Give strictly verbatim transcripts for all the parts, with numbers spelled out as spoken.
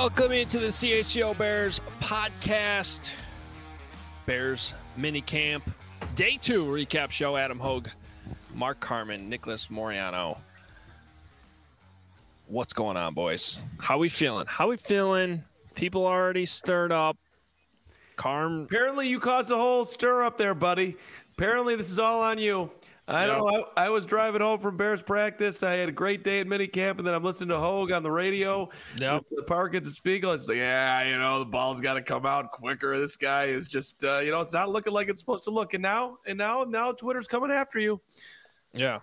Welcome into the C H G O Bears podcast. Bears mini camp, day two recap show. Adam Hogue, Mark Carman, Nicholas Moriano. What's going on, boys? How we feeling? How we feeling? People already stirred up. Carm. Apparently you caused a whole stir up there, buddy. Apparently this is all on you. I Yep. don't know. I, I was driving home from Bears practice. I had a great day at minicamp, and then I'm listening to Hogue on the radio. Yep. The Parkins and Spiegel. It's like, yeah, you know, the ball's got to come out quicker. This guy is just, uh, you know, it's not looking like it's supposed to look. And now, and now, now Twitter's coming after you. Yeah.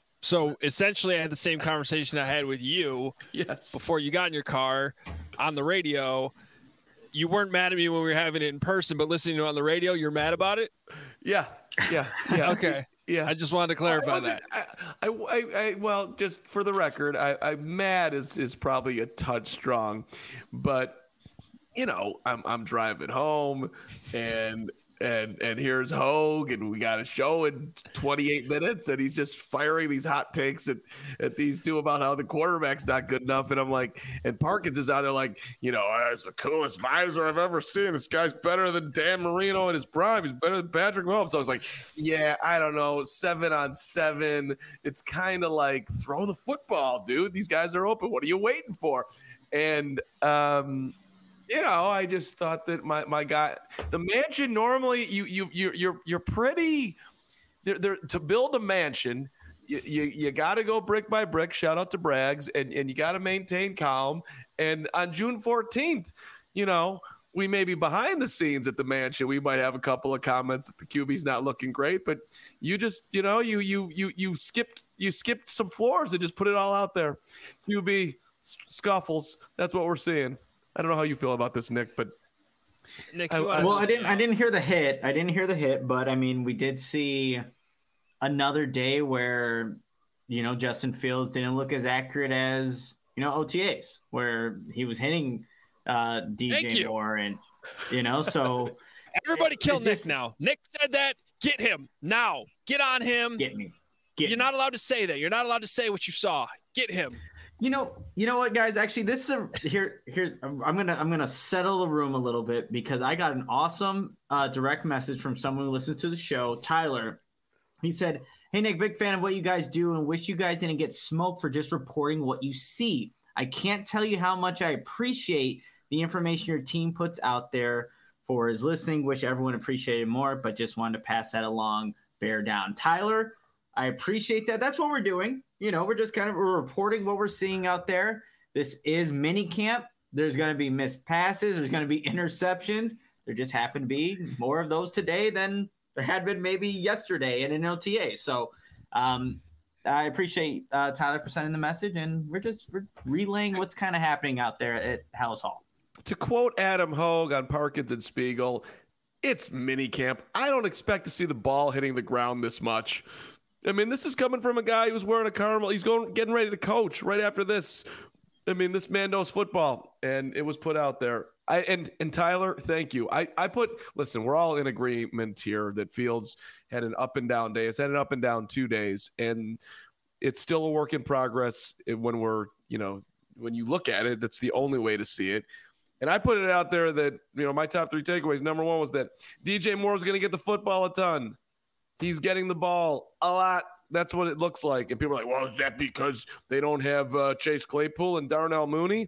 So essentially, I had the same conversation I had with you Yes. before you got in your car on the radio. You weren't mad at me when we were having it in person, but listening to it on the radio, you're mad about it? Yeah. Yeah. Yeah. Okay. Yeah. I just wanted to clarify I that. I, I, I, I, well, just for the record, I, I mad is, is probably a touch strong, but you know, I'm, I'm driving home and, and, and here's Hogue, and we got a show in twenty-eight minutes, and he's just firing these hot takes at, at these two about how the quarterback's not good enough. And I'm like, and Parkins is out there like, you know, oh, it's the coolest visor I've ever seen. This guy's better than Dan Marino in his prime. He's better than Patrick Mahomes. So I was like, yeah, I don't know, seven on seven. It's kind of like throw the football, dude. These guys are open. What are you waiting for? And um, you know, I just thought that my, my guy, the mansion normally you you you you're you're pretty. They're, they're, to build a mansion, you you, you got to go brick by brick. Shout out to Braggs, and and you got to maintain calm. And on June fourteenth, you know, we may be behind the scenes at the mansion. We might have a couple of comments that the Q B's not looking great, but you just, you know, you you you you skipped you skipped some floors and just put it all out there. Q B scuffles. That's what we're seeing. I don't know how you feel about this, Nick, but Nick, I- you wanna- Well, I didn't. I didn't hear the hit. I didn't hear the hit, but I mean, we did see another day where you know Justin Fields didn't look as accurate as you know O T As, where he was hitting uh, D Thank J you. Moore, and you know, so Everybody kill it Nick just- now. Nick said that. Get him now. Get on him. get me. Get You're me. not allowed to say that. You're not allowed to say what you saw. Get him. You know, you know what, guys? Actually, this is a, here. Here's I'm gonna I'm gonna settle the room a little bit because I got an awesome uh, direct message from someone who listens to the show, Tyler. He said, "Hey Nick, big fan of what you guys do, and wish you guys didn't get smoked for just reporting what you see. I can't tell you how much I appreciate the information your team puts out there for his listening. Wish everyone appreciated more, but just wanted to pass that along. Bear down, Tyler. I appreciate that. That's what we're doing." You know, we're just kind of we're reporting what we're seeing out there. This is mini camp. There's going to be missed passes. There's going to be interceptions. There just happen to be more of those today than there had been maybe yesterday in an O T A. So um, I appreciate uh, Tyler for sending the message, and we're just we're relaying what's kind of happening out there at Hallis Hall. to quote Adam Hogue on Parkins and Spiegel, it's minicamp. I don't expect to see the ball hitting the ground this much. I mean, this is coming from a guy who's wearing a caramel. He's going, getting ready to coach right after this. I mean, this man knows football, and it was put out there. I and and Tyler, thank you. I I put listen. We're all in agreement here that Fields had an up and down day. It's had an up and down two days, and it's still a work in progress. When we're you know when you look at it, that's the only way to see it. And I put it out there that you know my top three takeaways. Number one was that D J Moore is going to get the football a ton. He's getting the ball a lot. That's what it looks like. And people are like, well, is that because they don't have uh, Chase Claypool and Darnell Mooney?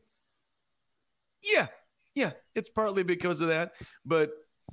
Yeah, yeah, it's partly because of that. But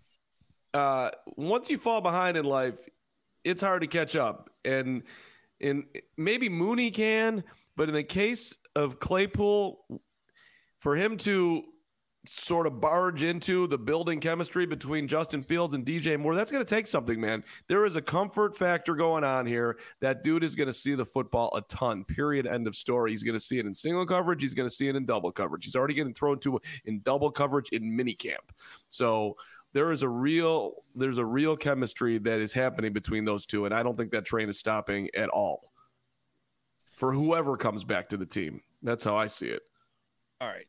uh, once you fall behind in life, it's hard to catch up. And, and maybe Mooney can, but in the case of Claypool, for him to sort of barge into the building chemistry between Justin Fields and D J Moore, that's going to take something, man. There is a comfort factor going on here. That dude is going to see the football a ton, period, end of story. He's going to see it in single coverage. He's going to see it in double coverage. He's already getting thrown to in double coverage in minicamp. So there is a real, there's a real chemistry that is happening between those two, and I don't think that train is stopping at all for whoever comes back to the team. That's how I see it. All right.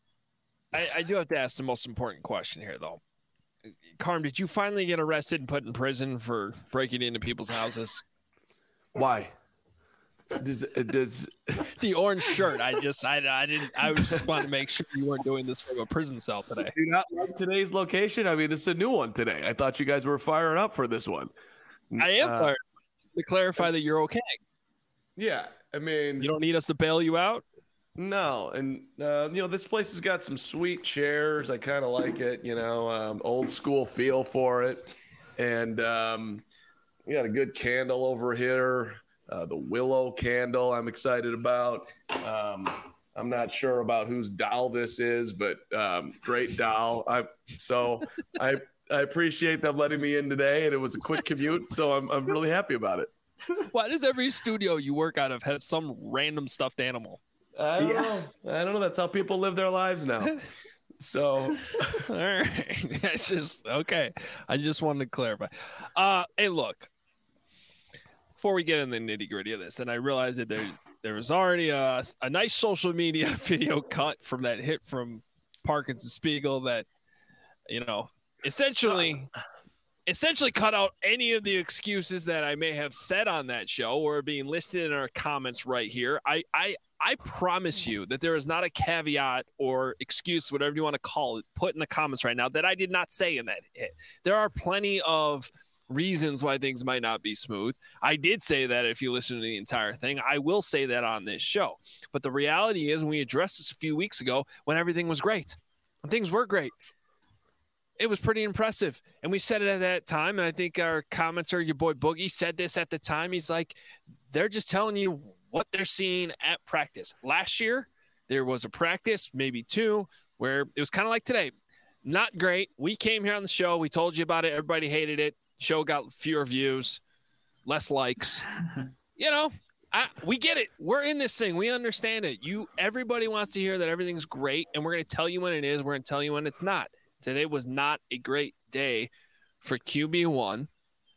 I, I do have to ask the most important question here, though. Carm, did you finally get arrested and put in prison for breaking into people's houses? Why? Does, does the orange shirt? I just, I, I didn't. I was just wanting to make sure you weren't doing this from a prison cell today. Do you not like today's location? I mean, this is a new one today. I thought you guys were firing up for this one. I am uh, fired to clarify that you're okay. Yeah, I mean, You don't need us to bail you out. no, and uh, you know, this place has got some sweet chairs. I kind of like it. You know, um, old school feel for it, and um, we got a good candle over here. Uh, the willow candle I'm excited about. Um, I'm not sure about whose doll this is, but um, great doll. I so I I appreciate them letting me in today, and it was a quick commute, so I'm I'm really happy about it. Why does every studio you work out of have some random stuffed animal? I don't Yeah. know. I don't know. That's how people live their lives now. So All right, that's just okay. I just wanted to clarify. Uh, hey, look. Before we get in the nitty gritty of this, and I realized that there there was already a, a nice social media video cut from that hit from Parkins and Spiegel that, you know, essentially essentially cut out any of the excuses that I may have said on that show or being listed in our comments right here. I I I promise you that there is not a caveat or excuse, whatever you want to call it, put in the comments right now that I did not say in that hit. There are plenty of reasons why things might not be smooth. I did say that if you listen to the entire thing. I will say that on this show. But the reality is, when we addressed this a few weeks ago, when everything was great, when things were great, it was pretty impressive. And we said it at that time. And I think our commenter, your boy Boogie, said this at the time. He's like, they're just telling you what they're seeing at practice. Last year, there was a practice, maybe two, where it was kind of like today. Not great. We came here on the show. We told you about it. Everybody hated it. Show got fewer views, less likes. You know, I, we get it. We're in this thing. We understand it. You, everybody wants to hear that everything's great, and we're going to tell you when it is. We're going to tell you when it's not. Today was not a great day for Q B one.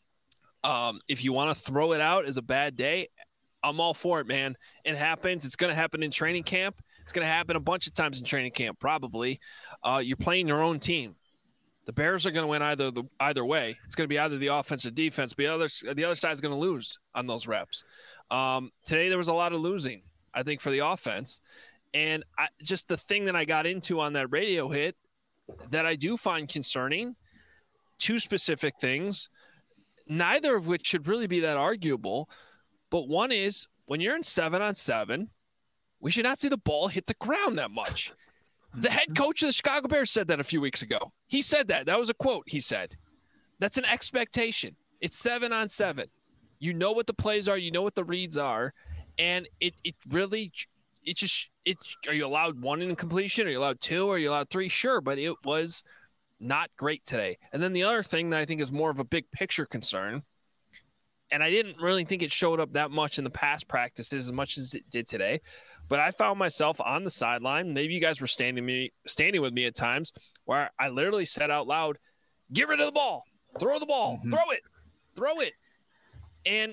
Um, if you want to throw it out as a bad day, I'm all for it, man. It happens. It's going to happen in training camp. It's going to happen a bunch of times in training camp, probably. Uh, you're playing your own team. The Bears are going to win either the either way. It's going to be either the offense or defense, but the other, the other side is going to lose on those reps. Um, today there was a lot of losing, I think, for the offense. And I, just the thing that I got into on that radio hit that I do find concerning, two specific things, neither of which should really be that arguable. But one is, when you're in seven on seven, we should not see the ball hit the ground that much. The head coach of the Chicago Bears said that a few weeks ago. He said that. That was a quote he said. That's an expectation. It's seven on seven. You know what the plays are. You know what the reads are. And it it really, it just, it, are you allowed one incompletion? Are you allowed two? Are you allowed three? Sure, but it was not great today. And then the other thing that I think is more of a big picture concern, and I didn't really think it showed up that much in the past practices as much as it did today, but I found myself on the sideline. Maybe you guys were standing me, standing with me at times where I literally said out loud, get rid of the ball, throw the ball, mm-hmm. throw it, throw it. And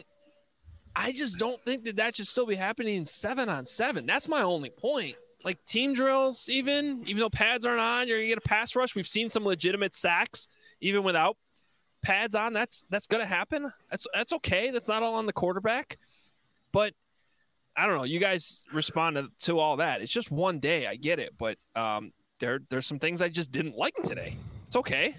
I just don't think that that should still be happening in seven on seven. That's my only point. Like team drills, even, even though pads aren't on, you're going to get a pass rush. We've seen some legitimate sacks, even without pads on. That's, that's going to happen. That's, that's okay. That's not all on the quarterback, but I don't know. You guys responded to all that. It's just one day. I get it. But um, there, there's some things I just didn't like today. It's okay.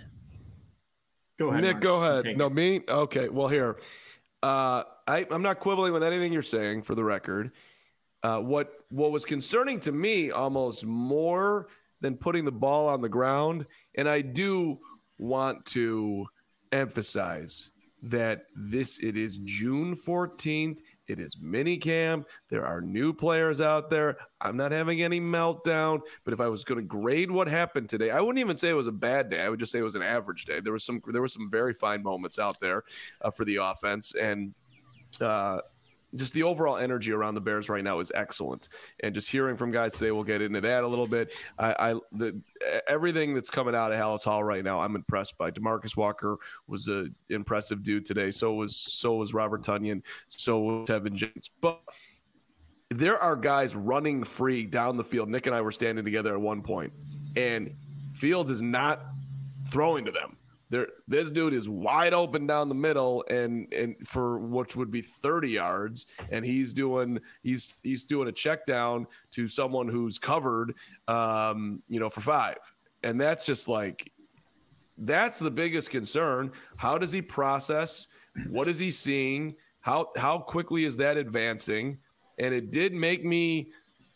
Go ahead, Nick, Mark. go ahead. Take No, it. me? Okay. Well, here. Uh, I, I'm not quibbling with anything you're saying, for the record. Uh, what what was concerning to me almost more than putting the ball on the ground, and I do want to emphasize that this it is June fourteenth. It is minicamp. There are new players out there. I'm not having any meltdown, but if I was going to grade what happened today, I wouldn't even say it was a bad day. I would just say it was an average day. There was some there were some very fine moments out there uh, for the offense, and uh, just the overall energy around the Bears right now is excellent. And just hearing from guys today, we'll get into that a little bit. I, I the everything that's coming out of Hallis Hall right now, I'm impressed by. DeMarcus Walker was an impressive dude today. So was so was Robert Tonyan. So was Tevin James. But there are guys running free down the field. Nick and I were standing together at one point, and Fields is not throwing to them. There, this dude is wide open down the middle, and and for which would be thirty yards, and he's doing he's he's doing a check down to someone who's covered, um, you know, for five, and that's just like, that's the biggest concern. How does he process? What is he seeing? How how quickly is that advancing? And it did make me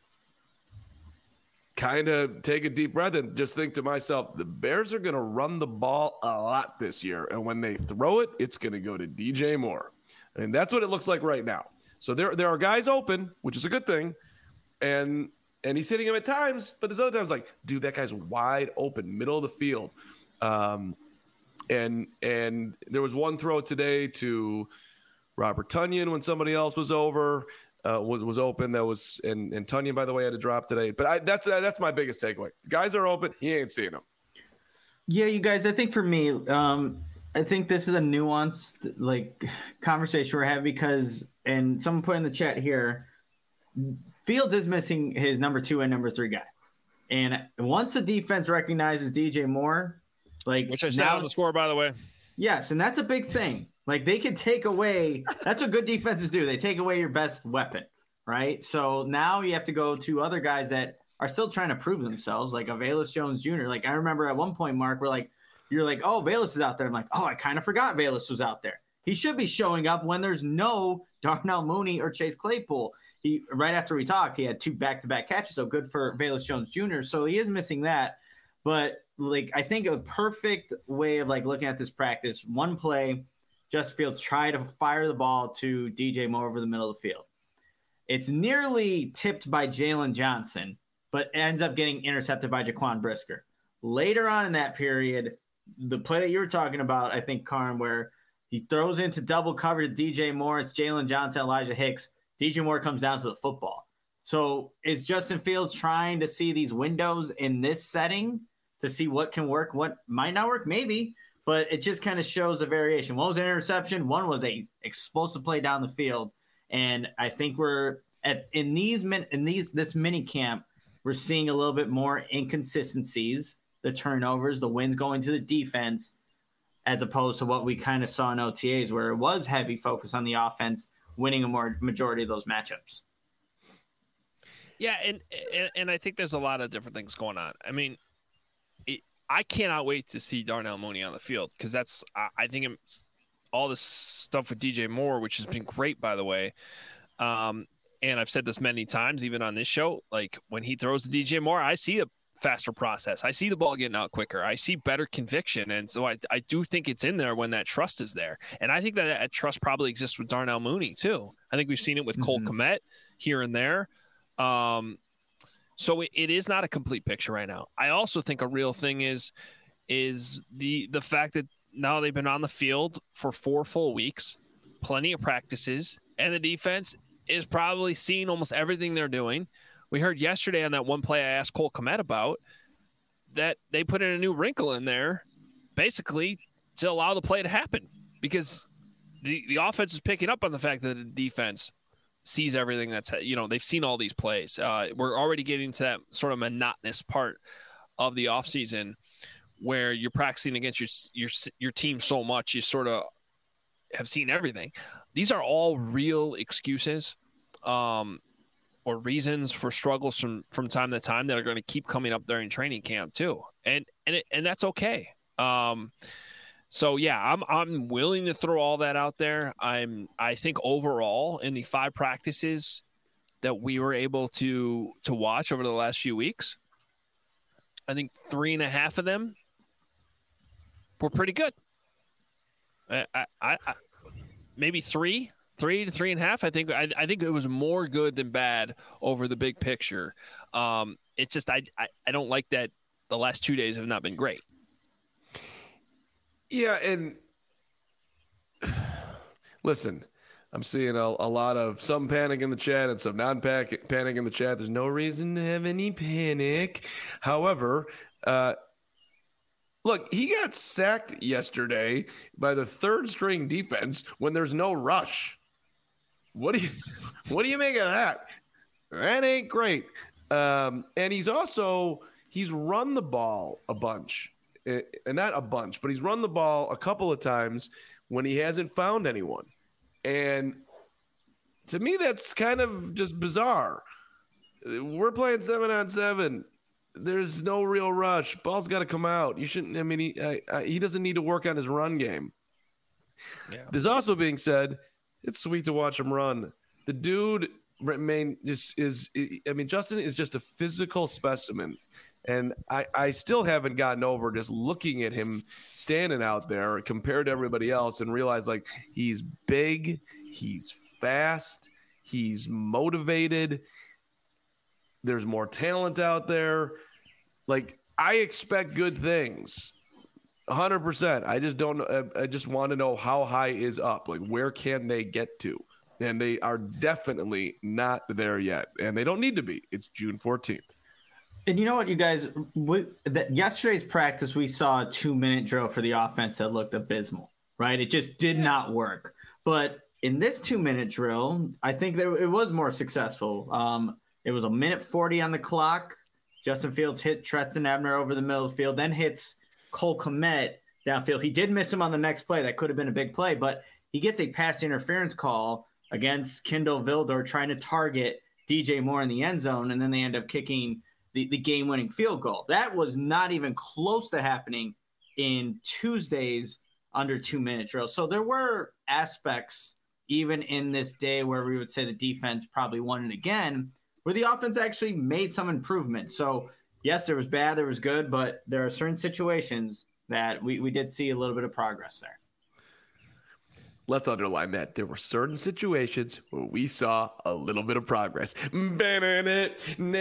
kind of take a deep breath and just think to myself, the Bears are going to run the ball a lot this year. And when they throw it, it's going to go to D J Moore. And that's what it looks like right now. So there, there are guys open, which is a good thing. And, and he's hitting him at times, but there's other times like, dude, that guy's wide open, middle of the field. Um, and, and there was one throw today to Robert Tonyan when somebody else was over. Uh, was was open. That was and and Tonyan, by the way, had a drop today. But I, that's that's my biggest takeaway. The guys are open. He ain't seeing them. Yeah, you guys. I think for me, um, I think this is a nuanced like conversation we're having because, and someone put in the chat here, Fields is missing his number two and number three guy, and once the defense recognizes D J Moore, like which I said on the score, by the way. Yes, and that's a big thing. Like they could take away, that's what good defenses do. They take away your best weapon, right? So now you have to go to other guys that are still trying to prove themselves, like a Velus Jones Junior Like I remember at one point, Mark, we're like, you're like, oh, Velus is out there. I'm like, oh, I kind of forgot Velus was out there. He should be showing up when there's no Darnell Mooney or Chase Claypool. He right after we talked, he had two back-to-back catches, so good for Velus Jones Junior So he is missing that. But like I think a perfect way of like looking at this practice, one play, Justin Fields try to fire the ball to D J Moore over the middle of the field. It's nearly tipped by Jalen Johnson, but ends up getting intercepted by Jaquan Brisker. Later on in that period, the play that you were talking about, I think, Karn, where he throws into double cover to D J Moore. It's Jalen Johnson, Elijah Hicks. D J Moore comes down to the football. So is Justin Fields trying to see these windows in this setting to see what can work, what might not work? Maybe. But it just kind of shows a variation. One was an interception. One was a explosive play down the field. And I think we're at in these min, in these this mini camp, we're seeing a little bit more inconsistencies, the turnovers, the wins going to the defense, as opposed to what we kind of saw in O T As, where it was heavy focus on the offense, winning a more majority of those matchups. Yeah, and and, and I think there's a lot of different things going on. I mean, I cannot wait to see Darnell Mooney on the field because that's I, I think it's all this stuff with D J Moore, which has been great, by the way. Um, and I've said this many times, even on this show, like when he throws to D J Moore, I see a faster process. I see the ball getting out quicker. I see better conviction. And so I, I do think it's in there when that trust is there. And I think that that trust probably exists with Darnell Mooney too. I think we've seen it with mm-hmm. Cole Kmet here and there. Um, So it, it is not a complete picture right now. I also think a real thing is is the the fact that now they've been on the field for four full weeks, plenty of practices, and the defense is probably seeing almost everything they're doing. We heard yesterday on that one play I asked Cole Kmet about that they put in a new wrinkle in there basically to allow the play to happen because the, the offense is picking up on the fact that the defense sees everything that's, you know, they've seen all these plays. Uh, we're already getting to that sort of monotonous part of the offseason where you're practicing against your, your, your team so much, you sort of have seen everything. These are all real excuses um, or reasons for struggles from, from time to time that are going to keep coming up during training camp too. And, and, it, and that's okay. Um, So yeah, I'm I'm willing to throw all that out there. I'm I think overall in the five practices that we were able to to watch over the last few weeks, I think three and a half of them were pretty good. I I, I maybe three, three to three and a half. I think I I think it was more good than bad over the big picture. Um, it's just I I, I don't like that the last two days have not been great. Yeah, and listen, I'm seeing a, a lot of some panic in the chat and some non-panic panic in the chat. There's no reason to have any panic. However, uh, look, he got sacked yesterday by the third-string defense when there's no rush. What do you what do you make of that? That ain't great. Um, and he's also he's run the ball a bunch. and not a bunch, but he's run the ball a couple of times when he hasn't found anyone. And to me, that's kind of just bizarre. We're playing seven on seven. There's no real rush. Ball's got to come out. You shouldn't. I mean, he I, I, he doesn't need to work on his run game. Yeah. There's also being said, it's sweet to watch him run. The dude remain is is. I mean, Justin is just a physical specimen, and I I still haven't gotten over just looking at him standing out there compared to everybody else and realize like he's big, he's fast, he's motivated. There's more talent out there. Like, I expect good things. one hundred percent. I just don't know. I just want to know how high is up. Like, where can they get to? And they are definitely not there yet. And they don't need to be. It's June fourteenth. And you know what, you guys? We, that yesterday's practice, we saw a two-minute drill for the offense that looked abysmal, right? It just did not work. But in this two-minute drill, I think that it was more successful. Um, It was a minute forty on the clock. Justin Fields hit Treston Ebner over the middle of the field, then hits Cole Kmet downfield. He did miss him on the next play. That could have been a big play, but he gets a pass interference call against Kindle Vildor trying to target D J Moore in the end zone, and then they end up kicking the, the game-winning field goal. That was not even close to happening in Tuesday's under two-minute drill. So there were aspects, even in this day where we would say the defense probably won it again, where the offense actually made some improvements. So, yes, there was bad, there was good, but there are certain situations that we, we did see a little bit of progress there. Let's underline that. There were certain situations where we saw a little bit of progress. Well, I,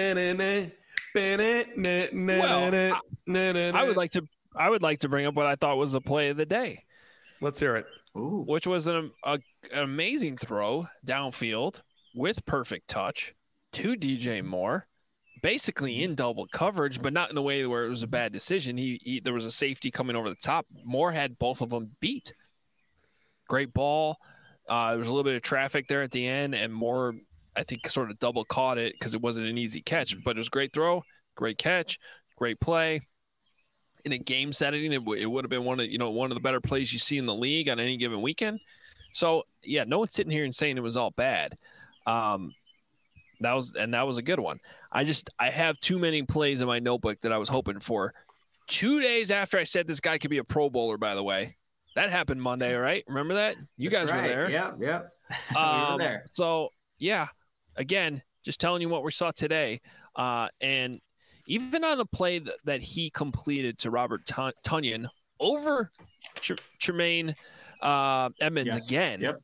I would like to I would like to bring up what I thought was the play of the day. Let's hear it. Ooh. Which was an, a, an amazing throw downfield with perfect touch to D J Moore, basically in double coverage, but not in a way where it was a bad decision. He, he there was a safety coming over the top. Moore had both of them beat. Great ball. Uh, there was a little bit of traffic there at the end, and Moore, I think, sort of double caught it because it wasn't an easy catch. But it was a great throw, great catch, great play. In a game setting, it, w- it would have been one of you know one of the better plays you see in the league on any given weekend. So yeah, no one's sitting here and saying it was all bad. Um, That was and that was a good one. I just I have too many plays in my notebook that I was hoping for. Two days after I said this guy could be a Pro Bowler, by the way, that happened Monday, right? Remember that? You That's guys right. were there. Yeah, yeah. Um, we were there. So yeah, again, just telling you what we saw today, uh, and even on a play that, that he completed to Robert Tun- Tonyan over Tr- Tremaine uh, Edmonds Yes. again. Yep.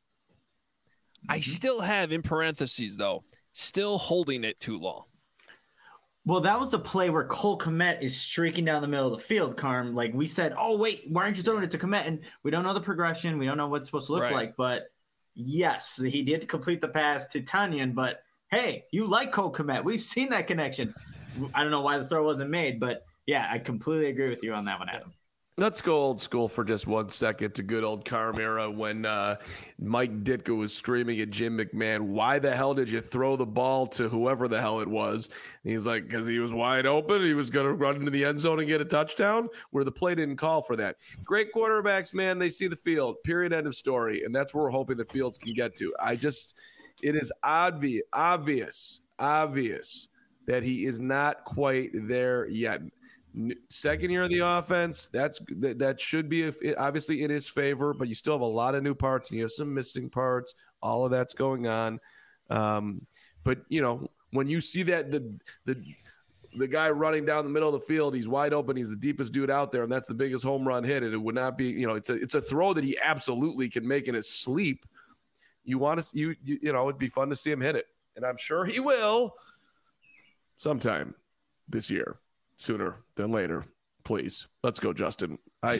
I Mm-hmm. still have in parentheses though. Still holding it too long. Well, that was the play where Cole Kmet is streaking down the middle of the field, Carm. Like we said, oh, wait, why aren't you throwing it to Kmet? And we don't know the progression. We don't know what it's supposed to look Right. like. But, yes, he did complete the pass to Tonyan. But, hey, you like Cole Kmet. We've seen that connection. I don't know why the throw wasn't made. But, yeah, I completely agree with you on that one, Adam. Let's go old school for just one second to good old Carm era when uh, Mike Ditka was screaming at Jim McMahon, why the hell did you throw the ball to whoever the hell it was? And he's like, because he was wide open. He was going to run into the end zone and get a touchdown, where the play didn't call for that. Great quarterbacks, man. They see the field. Period. End of story. And that's where we're hoping the Fields can get to. I just, it is obvious, obvious, obvious that he is not quite there yet. Second year of the offense, that's that, that should be obviously in his favor, but you still have a lot of new parts and you have some missing parts. All of that's going on. Um, but you know, when you see that the the the guy running down the middle of the field, he's wide open, he's the deepest dude out there, and that's the biggest home run hit, and it would not be, you know, it's a it's a throw that he absolutely can make in his sleep. You want to you you, you know, it'd be fun to see him hit it, and I'm sure he will sometime this year. Sooner than later, please. Let's go, Justin. I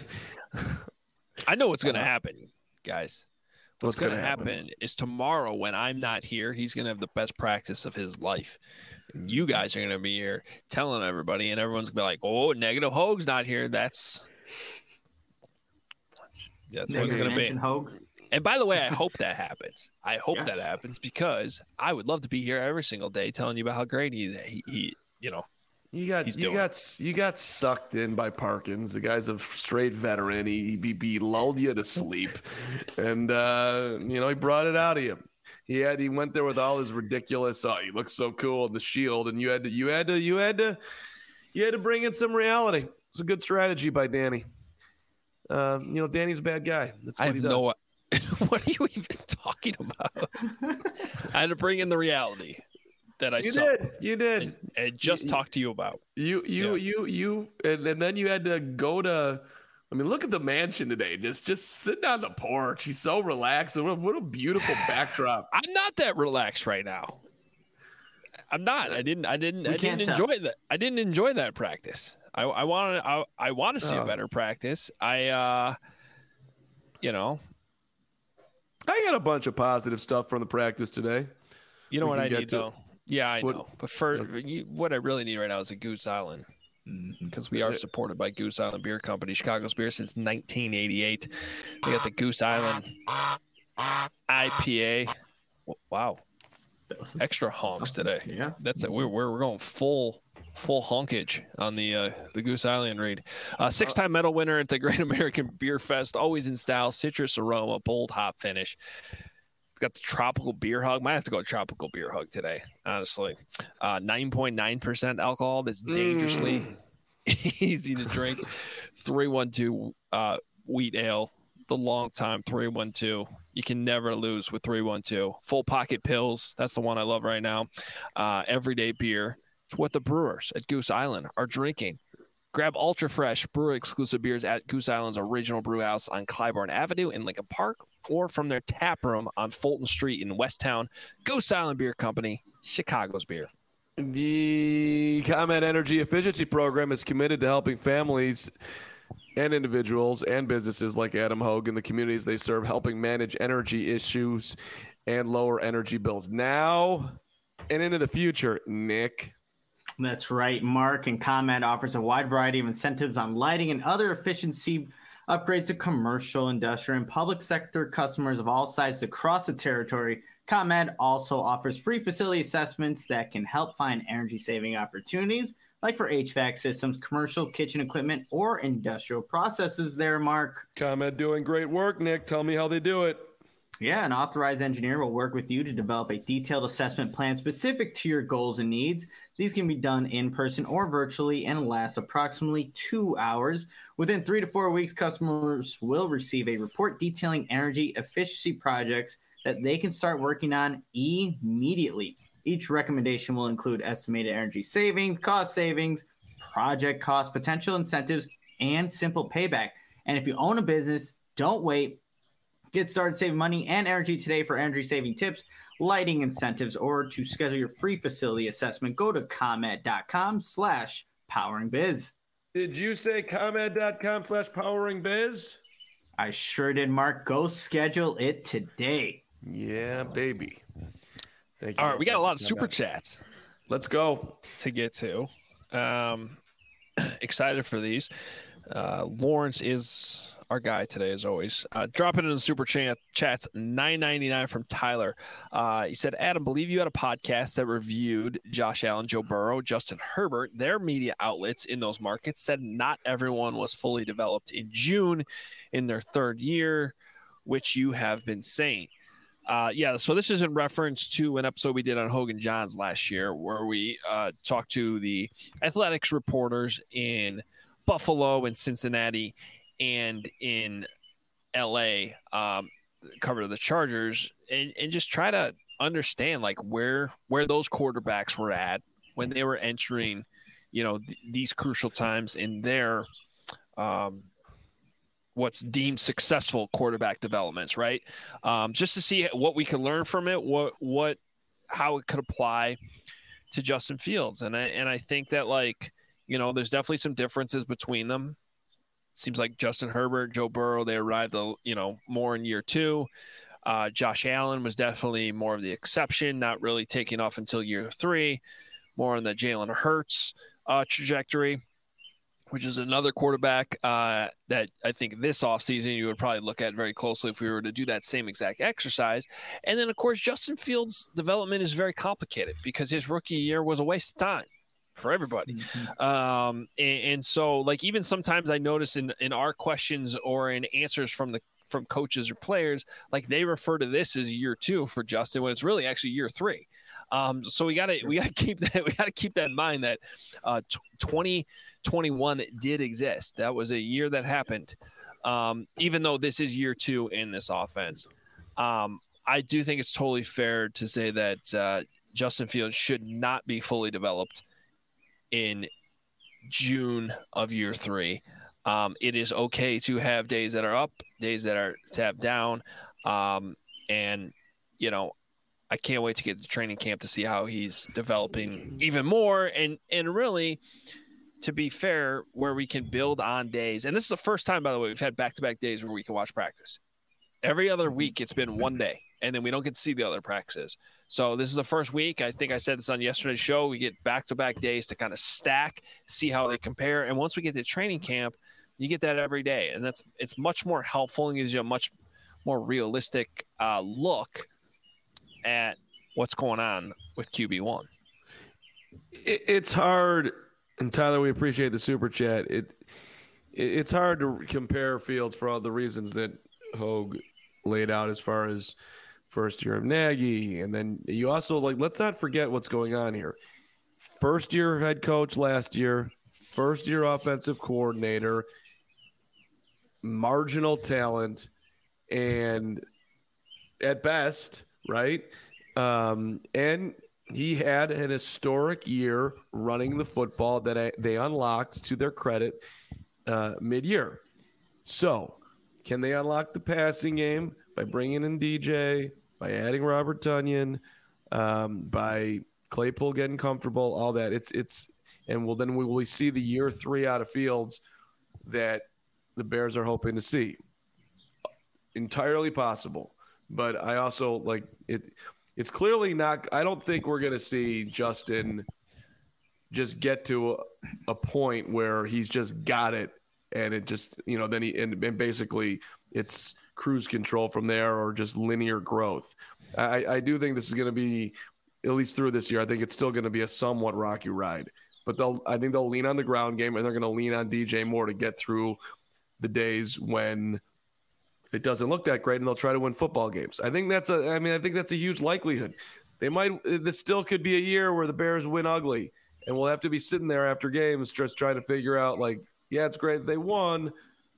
I know what's going to happen, guys. What's, What's going to gonna happen? happen is tomorrow when I'm not here, he's going to have the best practice of his life. And you guys are going to be here telling everybody, and everyone's going to be like, "Oh, Negative Hoag's not here." That's that's what it's going to be. Hogue. And by the way, I hope that happens. I hope Yes. that happens because I would love to be here every single day telling you about how great he he, he you know. You got he's you doing. got you got sucked in by Parkins. The guy's a straight veteran. He he, he lulled you to sleep, and uh, you know he brought it out of you. He had he went there with all his ridiculous. Oh, he looks so cool in the shield, and you had to you had to you had to you had to bring in some reality. It's a good strategy by Danny. Uh, you know, Danny's a bad guy. That's what I have he does. no. What are you even talking about? I had to bring in the reality that I You saw did. You did. and, and just You- talk to you about. You, you, Yeah. you, you, and, and then you had to go to. I mean, look at the mansion today. Just, just sitting on the porch. He's so relaxed. And what, what a beautiful backdrop. I'm not that relaxed right now. I'm not. I didn't. I didn't. We I didn't can't tell. enjoy that. I didn't enjoy that practice. I, I want to. I, I want to see Oh. a better practice. I, uh, you know, I got a bunch of positive stuff from the practice today. you know We what can I get need to- though. Yeah, I What- know. But for you, what I really need right now is a Goose Island. Because we are supported by Goose Island Beer Company, Chicago's beer since nineteen eighty-eight. We got the Goose Island I P A. Wow, That was- extra honks today. Yeah. That's it. We're we're, we're going full full honkage on the uh, the Goose Island read. Uh, Six time medal winner at the Great American Beer Fest, always in style, citrus aroma, bold hop finish. Got the tropical beer hug. Might have to go tropical beer hug today, honestly. Uh, nine point nine percent alcohol. That's dangerously easy to drink. three one two uh, wheat ale. The long time three one two. You can never lose with three one two. Full pocket pills. That's the one I love right now. Uh, everyday beer. It's what the brewers at Goose Island are drinking. Grab ultra fresh brewer exclusive beers at Goose Island's original brew house on Clybourne Avenue in Lincoln Park, or from their tap room on Fulton Street in Westtown. Goose Island Beer Company, Chicago's beer. The ComEd Energy Efficiency Program is committed to helping families and individuals and businesses like Adam Hogue and the communities they serve, helping manage energy issues and lower energy bills now and into the future. Nick. That's right. Mark and ComEd offers a wide variety of incentives on lighting and other efficiency upgrades to commercial, industrial, and public sector customers of all sizes across the territory. ComEd also offers free facility assessments that can help find energy-saving opportunities, like for H V A C systems, commercial kitchen equipment, or industrial processes there, Mark. ComEd doing great work, Nick. Tell me how they do it. Yeah, an authorized engineer will work with you to develop a detailed assessment plan specific to your goals and needs. These can be done in person or virtually and last approximately two hours. Within three to four weeks, customers will receive a report detailing energy efficiency projects that they can start working on immediately. Each recommendation will include estimated energy savings, cost savings, project cost, potential incentives, and simple payback. And if you own a business, don't wait. Get started saving money and energy today. For energy saving tips, lighting incentives, or to schedule your free facility assessment, go to ComEd.com slash powering biz. Did you say ComEd.com slash powering biz? I sure did, Mark. Go schedule it today. Yeah, baby. Thank you. All right, we got a lot of ComEd. super chats Let's go. to get to. Um, excited for these. Uh, Lawrence is our guy today, as always. Uh, dropping in the super chat chats, nine ninety-nine from Tyler. Uh, he said, Adam, believe you had a podcast that reviewed Josh Allen, Joe Burrow, Justin Herbert. Their media outlets in those markets said not everyone was fully developed in June in their third year, which you have been saying. Uh, yeah, so this is in reference to an episode we did on Hogan Johns last year where we uh, talked to the athletics reporters in Buffalo and Cincinnati and in L A, um, cover the Chargers, and, and just try to understand like where where those quarterbacks were at when they were entering, you know, th- these crucial times in their um, what's deemed successful quarterback developments, right? Um, just to see what we could learn from it, what what how it could apply to Justin Fields, and I and I think that like you know, there's definitely some differences between them. Seems like Justin Herbert, Joe Burrow, they arrived, you know, more in year two. Uh, Josh Allen was definitely more of the exception, not really taking off until year three, more on the Jalen Hurts uh, trajectory, which is another quarterback uh, that I think this offseason you would probably look at very closely if we were to do that same exact exercise. And then, of course, Justin Fields' development is very complicated because his rookie year was a waste of time for everybody. Mm-hmm. Um, and, and so, like, even sometimes I notice in, in our questions or in answers from the from coaches or players, like they refer to this as year two for Justin when it's really actually year three. Um, so we gotta we gotta keep that we gotta keep that in mind that uh, twenty twenty-one did exist. That was a year that happened. Um, even though this is year two in this offense, um, I do think it's totally fair to say that uh, Justin Fields should not be fully developed in June of year three. Um, it is okay to have days that are up, days that are tapped down. Um, and, you know, I can't wait to get to training camp to see how he's developing even more. And, and really, to be fair, where we can build on days. And this is the first time, by the way, we've had back-to-back days where we can watch practice. Every other week, it's been one day, and then we don't get to see the other practices. So this is the first week. I think I said this on yesterday's show. We get back-to-back days to kind of stack, see how they compare. And once we get to training camp, you get that every day. And that's it's much more helpful and gives you a much more realistic uh, look at what's going on with Q B one. It's hard, and Tyler, we appreciate the super chat. It It's hard to compare Fields for all the reasons that Hogue laid out as far as first year of Nagy, and then you also like let's not forget what's going on here. First year head coach last year, first year offensive coordinator, marginal talent, and at best, right? Um, and he had an historic year running the football that I, they unlocked to their credit uh, mid-year. So, can they unlock the passing game by bringing in D J, by adding Robert Tonyan, um, by Claypool getting comfortable, all that? It's it's and well then we will see the year three out of Fields that the Bears are hoping to see. Entirely possible, but I also like it. It's clearly not. I don't think we're going to see Justin just get to a, a point where he's just got it. And it just, you know, then he, and, and basically it's cruise control from there or just linear growth. I, I do think this is going to be, at least through this year, I think it's still going to be a somewhat rocky ride. But they'll, I think they'll lean on the ground game and they're going to lean on D J more to get through the days when it doesn't look that great and they'll try to win football games. I think that's a, I mean, I think that's a huge likelihood. They might, this still could be a year where the Bears win ugly and we'll have to be sitting there after games just trying to figure out like, yeah, it's great they won,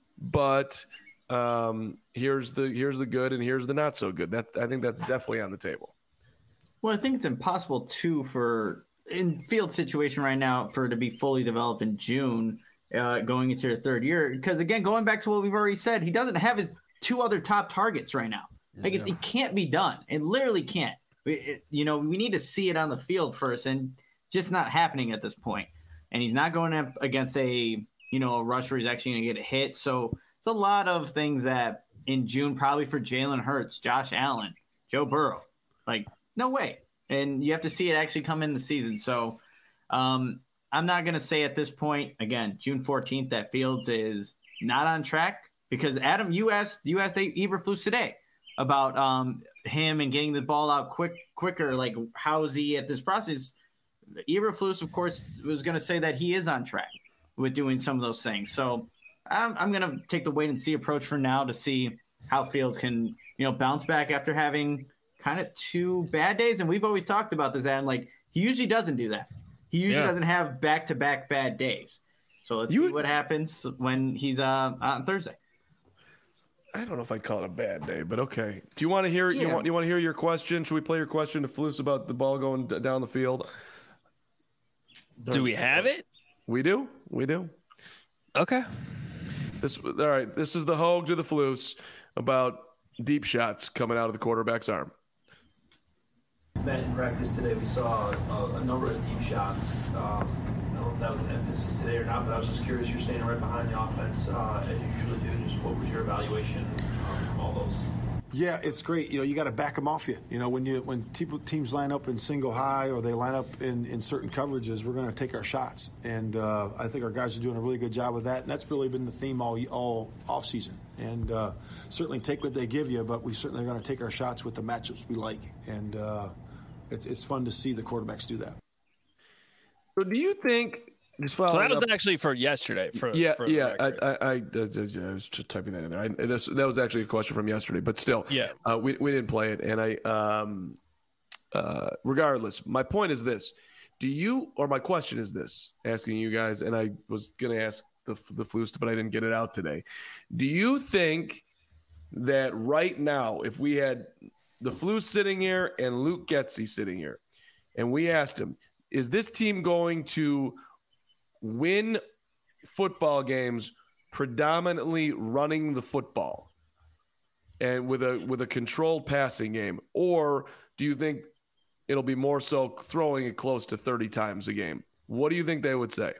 but um, here's the here's the good and here's the not so good. That I think that's definitely on the table. Well, I think it's impossible too for in Field situation right now for it to be fully developed in June, uh, going into his third year. Because again, going back to what we've already said, he doesn't have his two other top targets right now. Like yeah. it, it can't be done. It literally can't. It, you know, we need to see it on the field first, and just not happening at this point. And he's not going up against a you know, a rush where he's actually going to get a hit. So it's a lot of things that in June, probably for Jalen Hurts, Josh Allen, Joe Burrow, like, no way. And you have to see it actually come in the season. So um, I'm not going to say at this point, again, June fourteenth, that Fields is not on track because Adam, you asked, you asked Eberflus today about um, him and getting the ball out quick, quicker. Like, how is he at this process? Eberflus, of course, was going to say that he is on track with doing some of those things. So I'm, I'm going to take the wait and see approach for now to see how Fields can, you know, bounce back after having kind of two bad days. And we've always talked about this, Adam, like he usually doesn't do that. He usually yeah. doesn't have back-to-back bad days. So let's you, see what happens when he's uh, on Thursday. I don't know if I'd call it a bad day, but okay. Do you want to hear, yeah. you want, you want to hear your question? Should we play your question to Flus about the ball going d- down the field? Do we have it? We do. We do. Okay. This all right. This is the Hogue to the Flus about deep shots coming out of the quarterback's arm. Matt, in practice today, we saw a, a number of deep shots. Um, I don't know if that was an emphasis today or not, but I was just curious. You're standing right behind the offense uh, as you usually do. Just what was your evaluation um, from all those? Yeah, it's great. You know, you got to back them off you. You know, when you when te- teams line up in single high or they line up in, in certain coverages, we're going to take our shots. And uh, I think our guys are doing a really good job with that. And that's really been the theme all all off season. And uh, certainly take what they give you, but we certainly are going to take our shots with the matchups we like. And uh, it's it's fun to see the quarterbacks do that. So do you think? Just So that was up, actually for yesterday. For yeah, for yeah. I, I, I, I was just typing that in there. I, this, that was actually a question from yesterday, but still, yeah, uh, we we didn't play it, and I um, uh, regardless, my point is this: do you, or my question is this, asking you guys, and I was gonna ask the the Floost, but I didn't get it out today. Do you think that right now, if we had the Floost sitting here and Luke Getsy sitting here, and we asked him, is this team going to win football games predominantly running the football and with a with a controlled passing game, or do you think it'll be more so throwing it close to thirty times a game? What do you think they would say?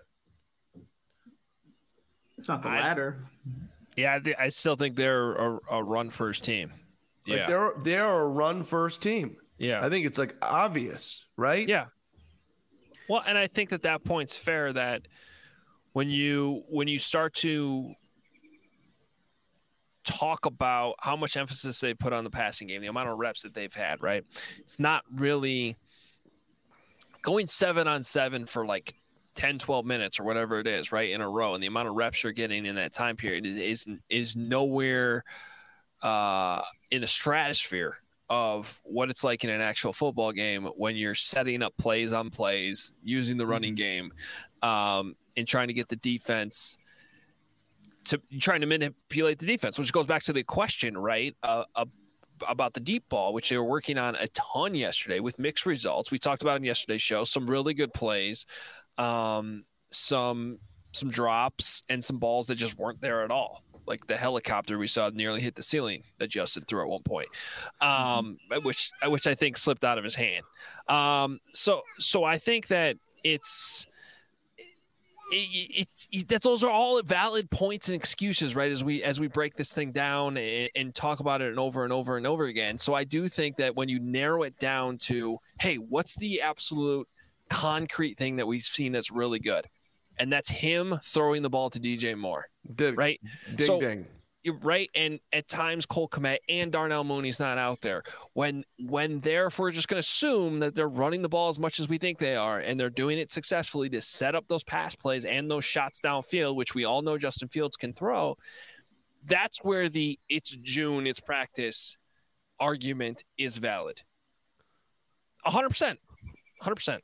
It's not the I, latter. Yeah, I, th- I still think they're a, a run first team. Like Yeah, they're they're a run first team. yeah, I think it's like obvious, right? yeah. Well, and I think that that point's fair. That when you when you start to talk about how much emphasis they put on the passing game, the amount of reps that they've had, right? It's not really going seven on seven for like ten, twelve minutes or whatever it is, right, in a row, and the amount of reps you're getting in that time period is is, is nowhere uh, in the stratosphere of what it's like in an actual football game when you're setting up plays on plays, using the running game, um, and trying to get the defense to trying to manipulate the defense, which goes back to the question, right, uh, uh, about the deep ball, which they were working on a ton yesterday with mixed results. We talked about in yesterday's show, some really good plays, um, some some drops, and some balls that just weren't there at all. Like the helicopter we saw nearly hit the ceiling that Justin threw at one point, um, which which I think slipped out of his hand. Um, so so I think that it's it, it, it that's those are all valid points and excuses, right? As we as we break this thing down and, and talk about it and over and over and over again. So I do think that when you narrow it down to, hey, what's the absolute concrete thing that we've seen that's really good? And that's him throwing the ball to D J Moore, Ding, right? Ding, so, ding. Right, and at times Cole Kmet and Darnell Mooney's not out there. When when they're, if we're just going to assume that they're running the ball as much as we think they are, and they're doing it successfully to set up those pass plays and those shots downfield, which we all know Justin Fields can throw, that's where the it's June, it's practice argument is valid. one hundred percent. one hundred percent.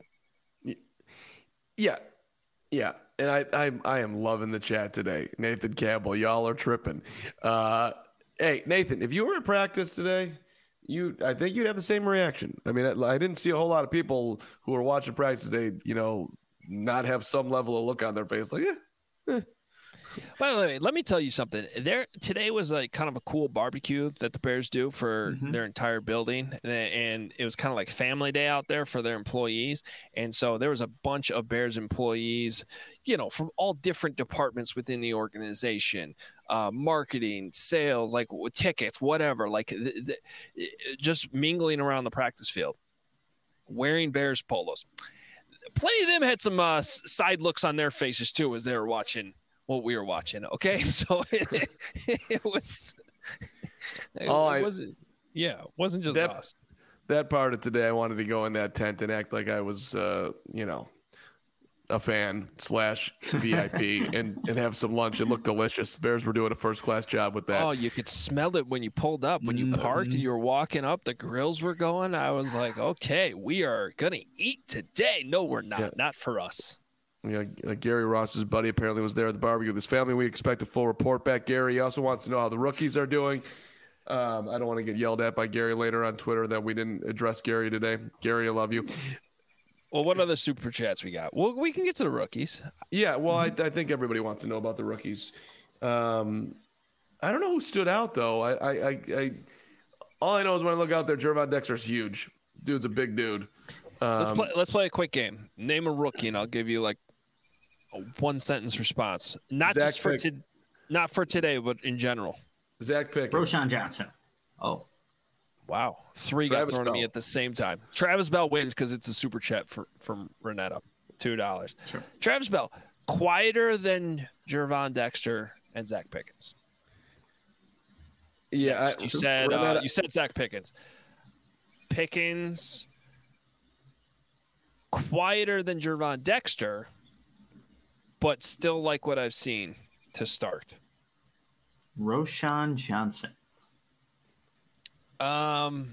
Yeah. Yeah. And I, I I am loving the chat today. Nathan Campbell, y'all are tripping. Uh, hey, Nathan, if you were at practice today, you I think you'd have the same reaction. I mean, I, I didn't see a whole lot of people who were watching practice today, you know, not have some level of look on their face like, yeah. Eh. By the way, let me tell you something. There today was like kind of a cool barbecue that the Bears do for mm-hmm. their entire building, and it was kind of like family day out there for their employees. And so there was a bunch of Bears employees, you know, from all different departments within the organization, uh, marketing, sales, like tickets, whatever, like the, the, just mingling around the practice field, wearing Bears polos. Plenty of them had some uh, side looks on their faces too as they were watching what we were watching. Okay. So it, it was, it, oh, it I, wasn't, yeah, it wasn't just that, us. That part of today, I wanted to go in that tent and act like I was, uh, you know, a fan slash V I P and, and have some lunch. It looked delicious. The Bears were doing a first class job with that. Oh, you could smell it when you pulled up, when you parked and you were walking up, the grills were going. I was like, okay, we are going to eat today. No, we're not. Yeah. Not for us. Yeah, uh, Gary Ross's buddy apparently was there at the barbecue with his family. We expect a full report back. Gary also wants to know how the rookies are doing. Um, I don't want to get yelled at by Gary later on Twitter that we didn't address Gary today. Gary, I love you. Well, what other super chats we got? Well, we can get to the rookies. Yeah, well, I, I think everybody wants to know about the rookies. Um, I don't know who stood out, though. I, I, I, I all I know is when I look out there, Gervon Dexter's huge. Dude's a big dude. Um, let's play. Let's play a quick game. Name a rookie, and I'll give you like a one sentence response. Not Zach just for Pick- to, not for today, but in general. Zach Pickens. Roschon Johnson. Oh, wow! Three Travis got thrown Bell. at me at the same time. Travis Bell wins because it's a super chat for from Renetta, two dollars. Sure. Travis Bell, quieter than Gervon Dexter and Zach Pickens. Yeah, I, you said uh, Renetta, you said Zach Pickens. Pickens quieter than Gervon Dexter, but still like what I've seen to start. Roschon Johnson. Um,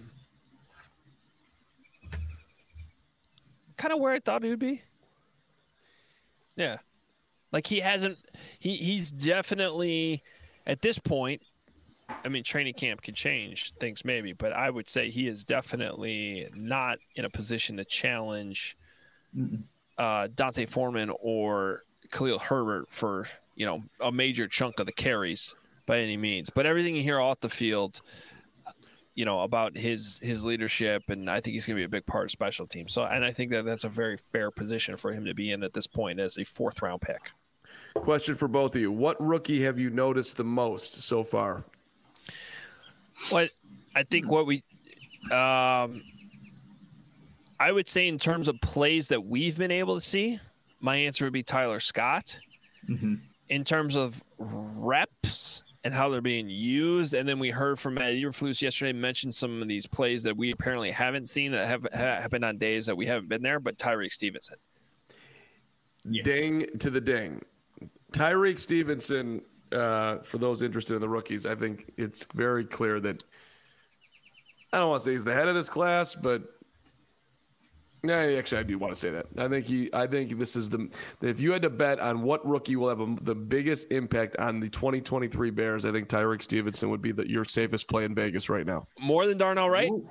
kind of where I thought he would be. Yeah. Like he hasn't, he he's definitely, at this point, I mean, training camp can change things maybe, but I would say he is definitely not in a position to challenge uh, Dante Foreman or Khalil Herbert for, you know, a major chunk of the carries by any means. But everything you hear off the field, you know, about his his leadership, and I think he's going to be a big part of special teams. So, and I think that that's a very fair position for him to be in at this point as a fourth round pick. Question for both of you. What rookie have you noticed the most so far? What I think what we um I would say in terms of plays that we've been able to see, my answer would be Tyler Scott. Mm-hmm. In terms of reps and how they're being used, and then we heard from Matt Eberflus yesterday mention some of these plays that we apparently haven't seen that have happened on days that we haven't been there, but Tyreek Stevenson. Yeah. Ding to the ding. Tyreek Stevenson, uh, for those interested in the rookies, I think it's very clear that I don't want to say he's the head of this class, but no, actually, I do want to say that. I think he. I think this is the. If you had to bet on what rookie will have a, the biggest impact on the twenty twenty-three Bears, I think Tyreek Stevenson would be the, your safest play in Vegas right now. More than Darnell Wright. Ooh.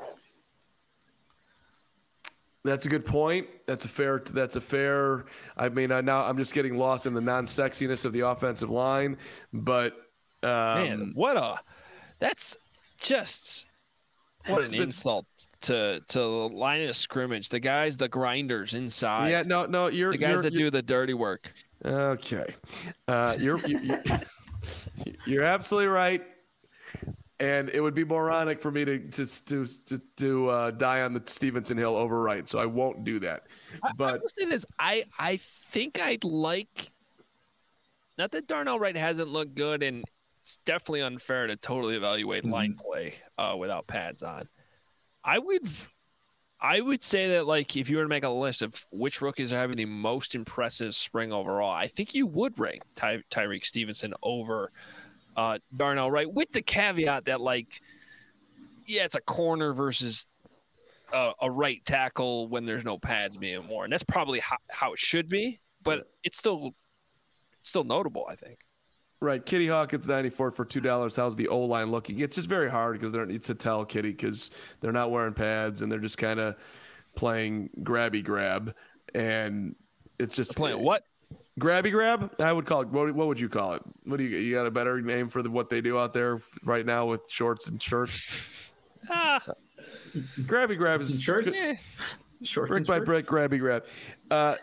That's a good point. That's a fair. That's a fair. I mean, I now I'm just getting lost in the non-sexiness of the offensive line, but um, man, what a. That's just. What an insult to to the line of scrimmage. The guys, the grinders inside. Yeah, no, no, you're the guys you're, that you're, do the dirty work. Okay, uh, you're, you're you're absolutely right, and it would be moronic for me to to to to, to uh, die on the Stevenson Hill over Wright, so I won't do that. But I, I will say this: I I think I'd like. Not that Darnell Wright hasn't looked good, and it's definitely unfair to totally evaluate mm-hmm. line play uh, without pads on. I would, I would say that like if you were to make a list of which rookies are having the most impressive spring overall, I think you would rank Ty- Tyreek Stevenson over uh, Darnell Wright, with the caveat that like, yeah, it's a corner versus a, a right tackle when there's no pads being worn. That's probably how, how it should be, but it's still, it's still notable, I think. Right, Kitty Hawkins ninety-four for two dollars. How's the O line looking? It's just very hard because they're it's a tell Kitty because they're not wearing pads and they're just kind of playing grabby grab, and it's just they're playing what grabby grab. I would call it. What, what would you call it? What do you you got a better name for the, what they do out there right now with shorts and shirts? Ah, grabby grab is shirts. Yeah. Shorts brick by shirts. Brick grabby grab. Uh,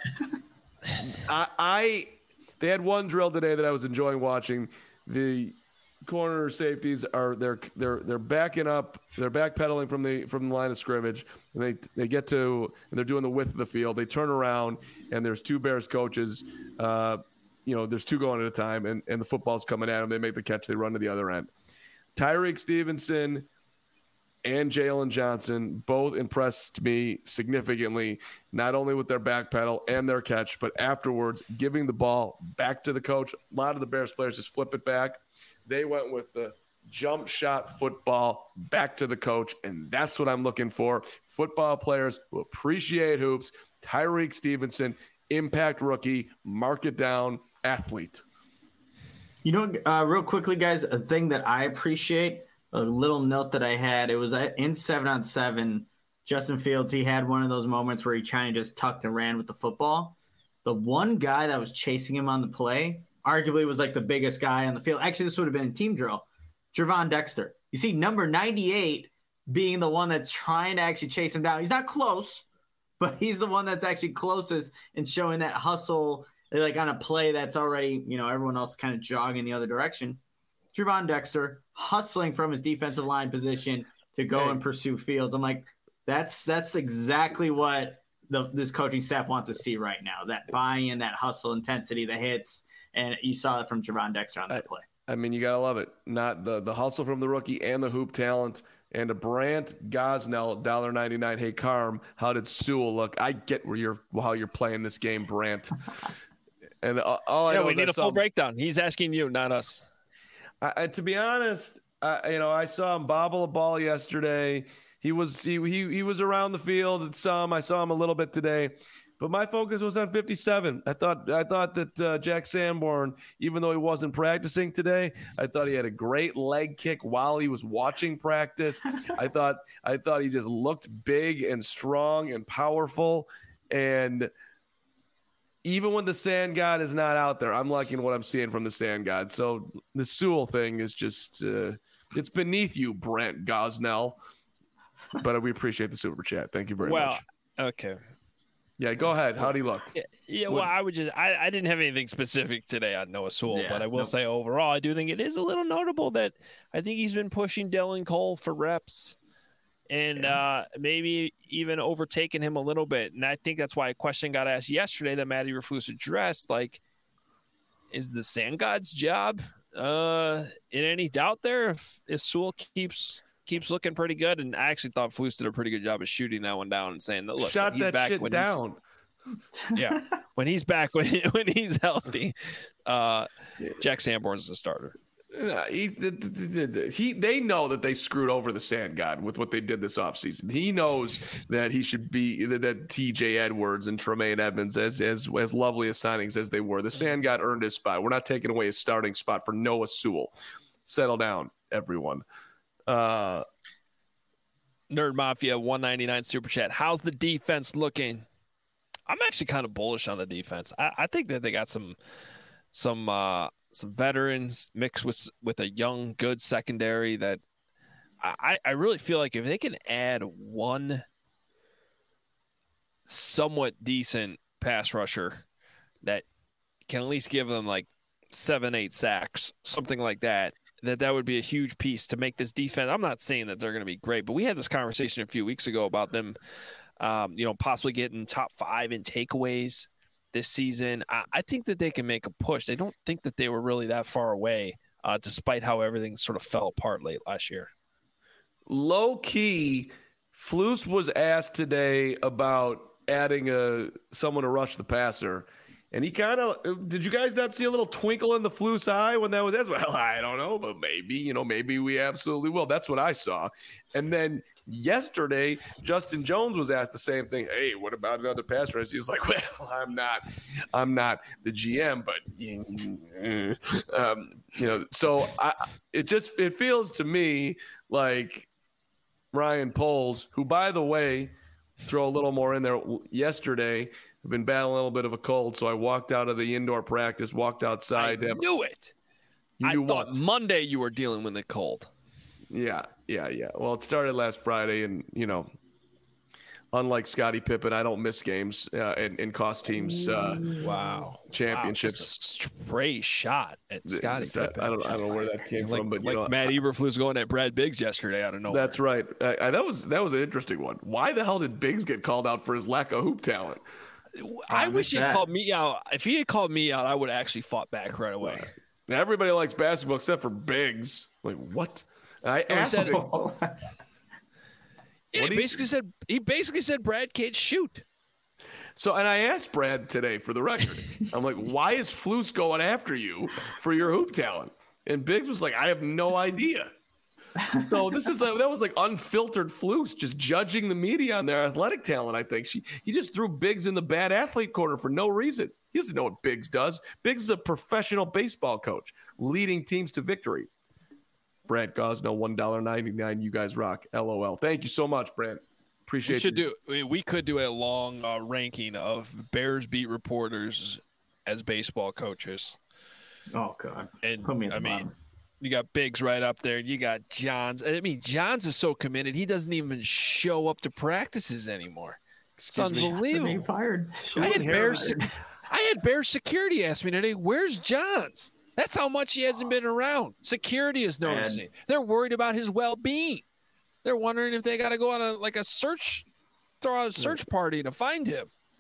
I. I They had one drill today that I was enjoying watching. The corner safeties are they're they're they're backing up, they're backpedaling from the from the line of scrimmage, and they they get to and they're doing the width of the field. They turn around and there's two Bears coaches. Uh, you know, there's two going at a time, and and the football's coming at them. They make the catch. They run to the other end. Tyreek Stevenson and Jalen Johnson both impressed me significantly, not only with their back pedal and their catch, but afterwards giving the ball back to the coach. A lot of the Bears players just flip it back. They went with the jump shot football back to the coach, and that's what I'm looking for. Football players who appreciate hoops. Tyreek Stevenson, impact rookie, mark it down, athlete. You know, uh, real quickly, guys, a thing that I appreciate, a little note that I had, it was in seven on seven. Justin Fields, he had one of those moments where he kind of just tucked and ran with the football. The one guy that was chasing him on the play arguably was like the biggest guy on the field. Actually, this would have been a team drill. Gervon Dexter. You see number ninety-eight being the one that's trying to actually chase him down. He's not close, but he's the one that's actually closest and showing that hustle, like on a play that's already, you know, everyone else kind of jogging the other direction. Gervon Dexter hustling from his defensive line position to go hey. and pursue Fields. I'm like, that's that's exactly what the, this coaching staff wants to see right now. That buy-in, that hustle intensity, the hits, and you saw it from Gervon Dexter on that I, play. I mean, you got to love it. Not the, the hustle from the rookie and the hoop talent. And a Brant Gosnell, one dollar ninety-nine. Hey, Carm, how did Sewell look? I get where you're how you're playing this game, Brant. And uh, all I yeah, know we is need I a full saw, breakdown. He's asking you, not us. I, I, to be honest, I, you know, I saw him bobble a ball yesterday. He was he he he was around the field at some. I saw him a little bit today. But my focus was on fifty-seven. I thought I thought that uh, Jack Sanborn, even though he wasn't practicing today, I thought he had a great leg kick while he was watching practice. I thought I thought he just looked big and strong and powerful. And even when the Sand God is not out there, I'm liking what I'm seeing from the Sand God. So the Sewell thing is just uh, it's beneath you, Brent Gosnell. But we appreciate the super chat. Thank you very well, much. Well, okay. Yeah, go ahead. How'd he look? Yeah, yeah well, I would just I, I didn't have anything specific today on Noah Sewell, Yeah, but I will nope. say overall, I do think it is a little notable that I think he's been pushing Dylan Cole for reps and Yeah. uh, maybe even overtaking him a little bit. And I think that's why a question got asked yesterday that Matt Eberflus addressed, like, is the Sand God's job uh, in any doubt there if, if Sewell keeps keeps looking pretty good? And I actually thought Flus did a pretty good job of shooting that one down and saying that, look, Shot he's that back shit when down. He's, yeah, when he's back, when, when he's healthy, uh, Jack Sanborn's the starter. Uh, he, he, they know that they screwed over the Sand God with what they did this offseason. He knows that he should be that, that T J Edwards and Tremaine Edmonds, as as as lovely as signings as they were, the Sand God earned his spot. We're not taking away his starting spot for Noah Sewell. Settle down, everyone. Uh, Nerd Mafia one ninety-nine super chat. How's the defense looking? I'm actually kind of bullish on the defense. I, I think that they got some some uh, some veterans mixed with with a young, good secondary that I, I really feel like if they can add one somewhat decent pass rusher that can at least give them like seven, eight sacks, something like that, that that would be a huge piece to make this defense. I'm not saying that they're going to be great, but we had this conversation a few weeks ago about them, um, you know, possibly getting top five in takeaways this season. I, I think that they can make a push. I don't think that they were really that far away, uh, despite how everything sort of fell apart late last year. Low key, Flus was asked today about adding a someone to rush the passer. And he kind of, did you guys not see a little twinkle in the Flus eye when that was asked? Well, I don't know, but maybe, you know, maybe we absolutely will. That's what I saw. And then yesterday, Justin Jones was asked the same thing. Hey, what about another pass rush? He was like, well, I'm not, I'm not the G M, but, um, you know, so I, it just, it feels to me like Ryan Poles, who, by the way, throw a little more in there yesterday, I've been battling a little bit of a cold, so I walked out of the indoor practice, walked outside. I have, knew it. You I knew thought what? Monday you were dealing with the cold. Yeah, yeah, yeah. Well, it started last Friday, and, you know, unlike Scottie Pippen, I don't miss games uh, and, and cost teams uh, Wow. championships. Wow, just a stray shot at Scottie That- Pippen. I don't, I don't know where that came like, from, but, you like know, Matt Eberflus going at Brad Biggs yesterday out of nowhere. that's right. Uh, I, that was that was an interesting one. Why the hell did Biggs get called out for his lack of hoop talent? I, I wish missed he had that. called me out. If he had called me out, I would have actually fought back right away. Everybody likes basketball except for Biggs. Like, what? I asked said- Biggs, Yeah, What he do you- basically said he basically said Brad can't shoot. So, and I asked Brad today for the record. I'm like, why is Flus going after you for your hoop talent? And Biggs was like, I have no idea. So this is like, that was like unfiltered Flus just judging the media on their athletic talent. I think she he just threw Biggs in the bad athlete corner for no reason. He doesn't know what Biggs does. Biggs is a professional baseball coach leading teams to victory. Brad Gosnell, one dollar ninety-nine. You guys rock. L O L. Thank you so much, Brad. Appreciate We should you. do. we- We could do a long uh, ranking of Bears beat reporters as baseball coaches, Oh God. and Put me at I the mean, bottom. you got Biggs right up there. You got Johns. I mean, Johns is so committed he doesn't even show up to practices anymore. It's Excuse me. Should be unbelievable. fired. I had Should Bears. be fired. I had Bears security ask me today, "Where's Johns?" That's how much he hasn't been around. Security is noticing. They're worried about his well-being. They're wondering if they got to go on a like a search, throw out a search party to find him.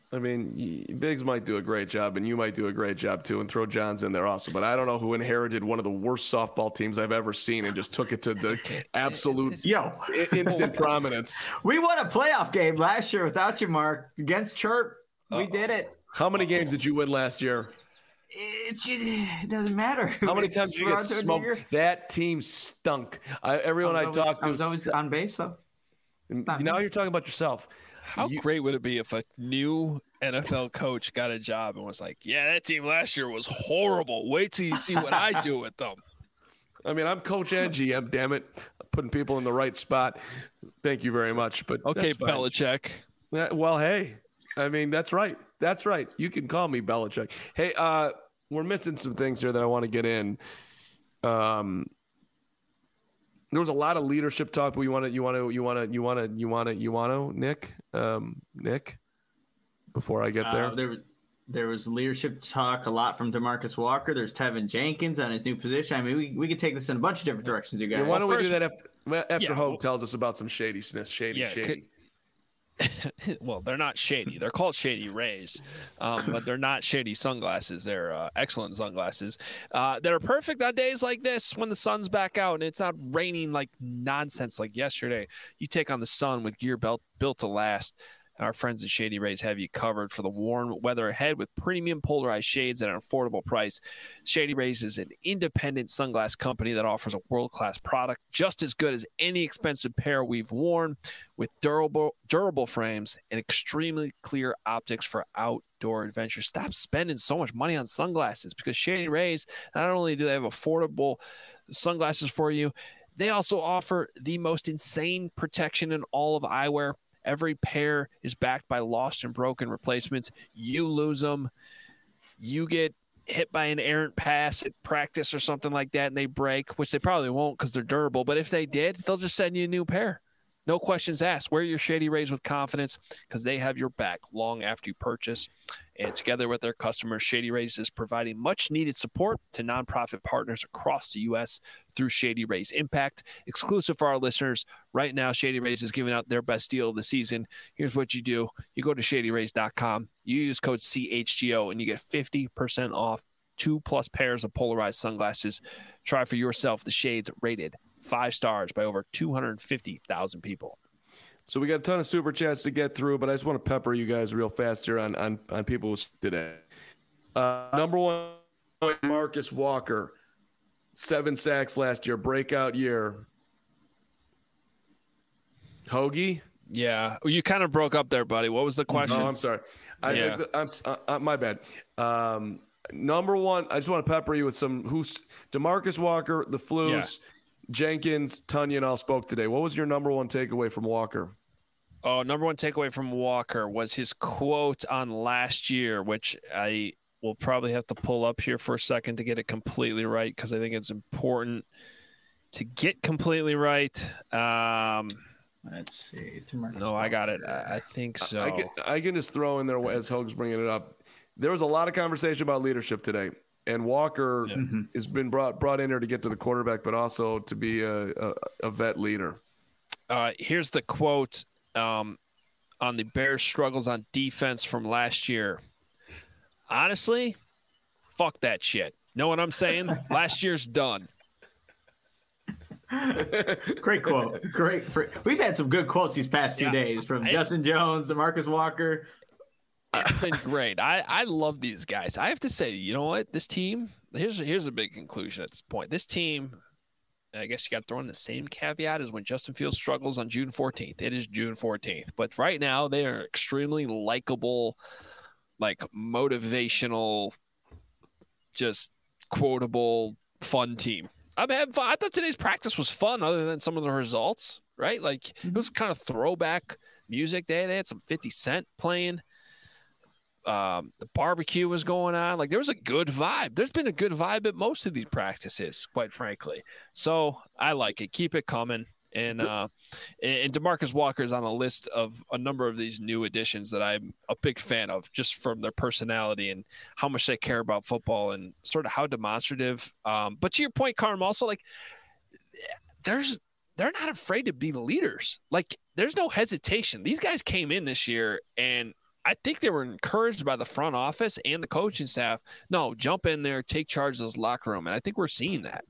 I mean, y- Biggs might do a great job, and you might do a great job too, and throw Johns in there also. But I don't know who inherited one of the worst softball teams I've ever seen and just took it to the absolute Yo, i- instant prominence. we won a playoff game last year without you, Mark, against Chirp. We Uh-oh. did it. How many games did you win last year? It, just, it doesn't matter. How many It's- times did you we're get on to a new smoked? year. That team stunk. I, everyone I, I was always- talked to. I was always on base, though. not now me. you're talking about yourself. How You- great would it be if a new N F L coach got a job and was like, yeah, that team last year was horrible. Wait till you see what I do with them. I mean, I'm coach and G M, damn it. Putting people in the right spot. Thank you very much. But Okay, that's fine. Belichick. Yeah, well, hey, I mean, that's right. That's right. You can call me Belichick. Hey, uh, we're missing some things here that I want to get in. Um, there was a lot of leadership talk, but you want to, you want to, you want to, you want to, you want to, you want to, Nick, um, Nick, before I get there. Uh, there, there was leadership talk a lot from DeMarcus Walker. There's Tevin Jenkins on his new position. I mean, we, we could take this in a bunch of different directions, you guys. Yeah, why don't well, we do first- that after, after Yeah, Hogue well- tells us about some shadiness? Shady, Yeah, shady. could- Well, they're not shady. They're called Shady Rays, um, but they're not shady sunglasses. They're uh, excellent sunglasses uh, that are perfect on days like this when the sun's back out and it's not raining like nonsense like yesterday. You take on the sun with gear belt built to last. And our friends at Shady Rays have you covered for the warm weather ahead with premium polarized shades at an affordable price. Shady Rays is an independent sunglass company that offers a world-class product just as good as any expensive pair we've worn, with durable durable frames and extremely clear optics for outdoor adventure. Stop spending so much money on sunglasses, because Shady Rays, not only do they have affordable sunglasses for you, they also offer the most insane protection in all of eyewear. Every pair is backed by lost and broken replacements. You lose them, you get hit by an errant pass at practice or something like that and they break, which they probably won't because they're durable. But if they did, they'll just send you a new pair. No questions asked. Wear your Shady Rays with confidence because they have your back long after you purchase. And together with their customers, Shady Rays is providing much needed support to nonprofit partners across the U S through Shady Rays Impact. Exclusive for our listeners, right now, Shady Rays is giving out their best deal of the season. Here's what you do. You go to shady rays dot com, you use code C H G O, and you get fifty percent off two plus pairs of polarized sunglasses. Try for yourself the shades rated five stars by over two hundred fifty thousand people. So we got a ton of super chats to get through, but I just want to pepper you guys real fast here on on, on people today. Uh, number one, Marcus Walker, seven sacks last year, breakout year. Hoagie? Yeah, you kind of broke up there, buddy. What was the question? Oh, I'm sorry. I, Yeah. I, I'm uh, uh, my bad. Um, number one, I just want to pepper you with some who's DeMarcus Walker, the Flues, Yeah. Jenkins, Tunyon all spoke today. What was your number one takeaway from Walker? Oh, number one takeaway from Walker was his quote on last year, which I will probably have to pull up here for a second to get it completely right, because I think it's important to get completely right. Um, Let's see. DeMarcus no, I got it. Walker. I, I think so. I can, I can just throw in there as Hogue's bringing it up. There was a lot of conversation about leadership today, and Walker Yeah. Mhm. has been brought brought in here to get to the quarterback, but also to be a, a, a vet leader. Uh, here's the quote um, on the Bears' struggles on defense from last year. Honestly, fuck that shit. Know what I'm saying? Last year's done. Great quote. Great. We've had some good quotes these past two Yeah. days from I- Justin Jones to Marcus Walker. It's been great. I, I love these guys. I have to say, you know what? This team, here's here's a big conclusion at this point. This team, I guess you got to throw in the same caveat as when Justin Fields struggles on June fourteenth. It is June fourteenth. But right now, they are extremely likable, like motivational, just quotable, fun team. I'm having fun. I thought today's practice was fun other than some of the results, right? Like it was kind of throwback music day. They had some fifty Cent playing. Um, the barbecue was going on. Like there was a good vibe. There's been a good vibe at most of these practices, quite frankly. So I like it. Keep it coming. And uh, and DeMarcus Walker is on a list of a number of these new additions that I'm a big fan of, just from their personality and how much they care about football and sort of how demonstrative. Um, but to your point, Carm, also like there's they're not afraid to be leaders. Like there's no hesitation. These guys came in this year and I think they were encouraged by the front office and the coaching staff. No, jump in there, take charge of this locker room. And I think we're seeing that.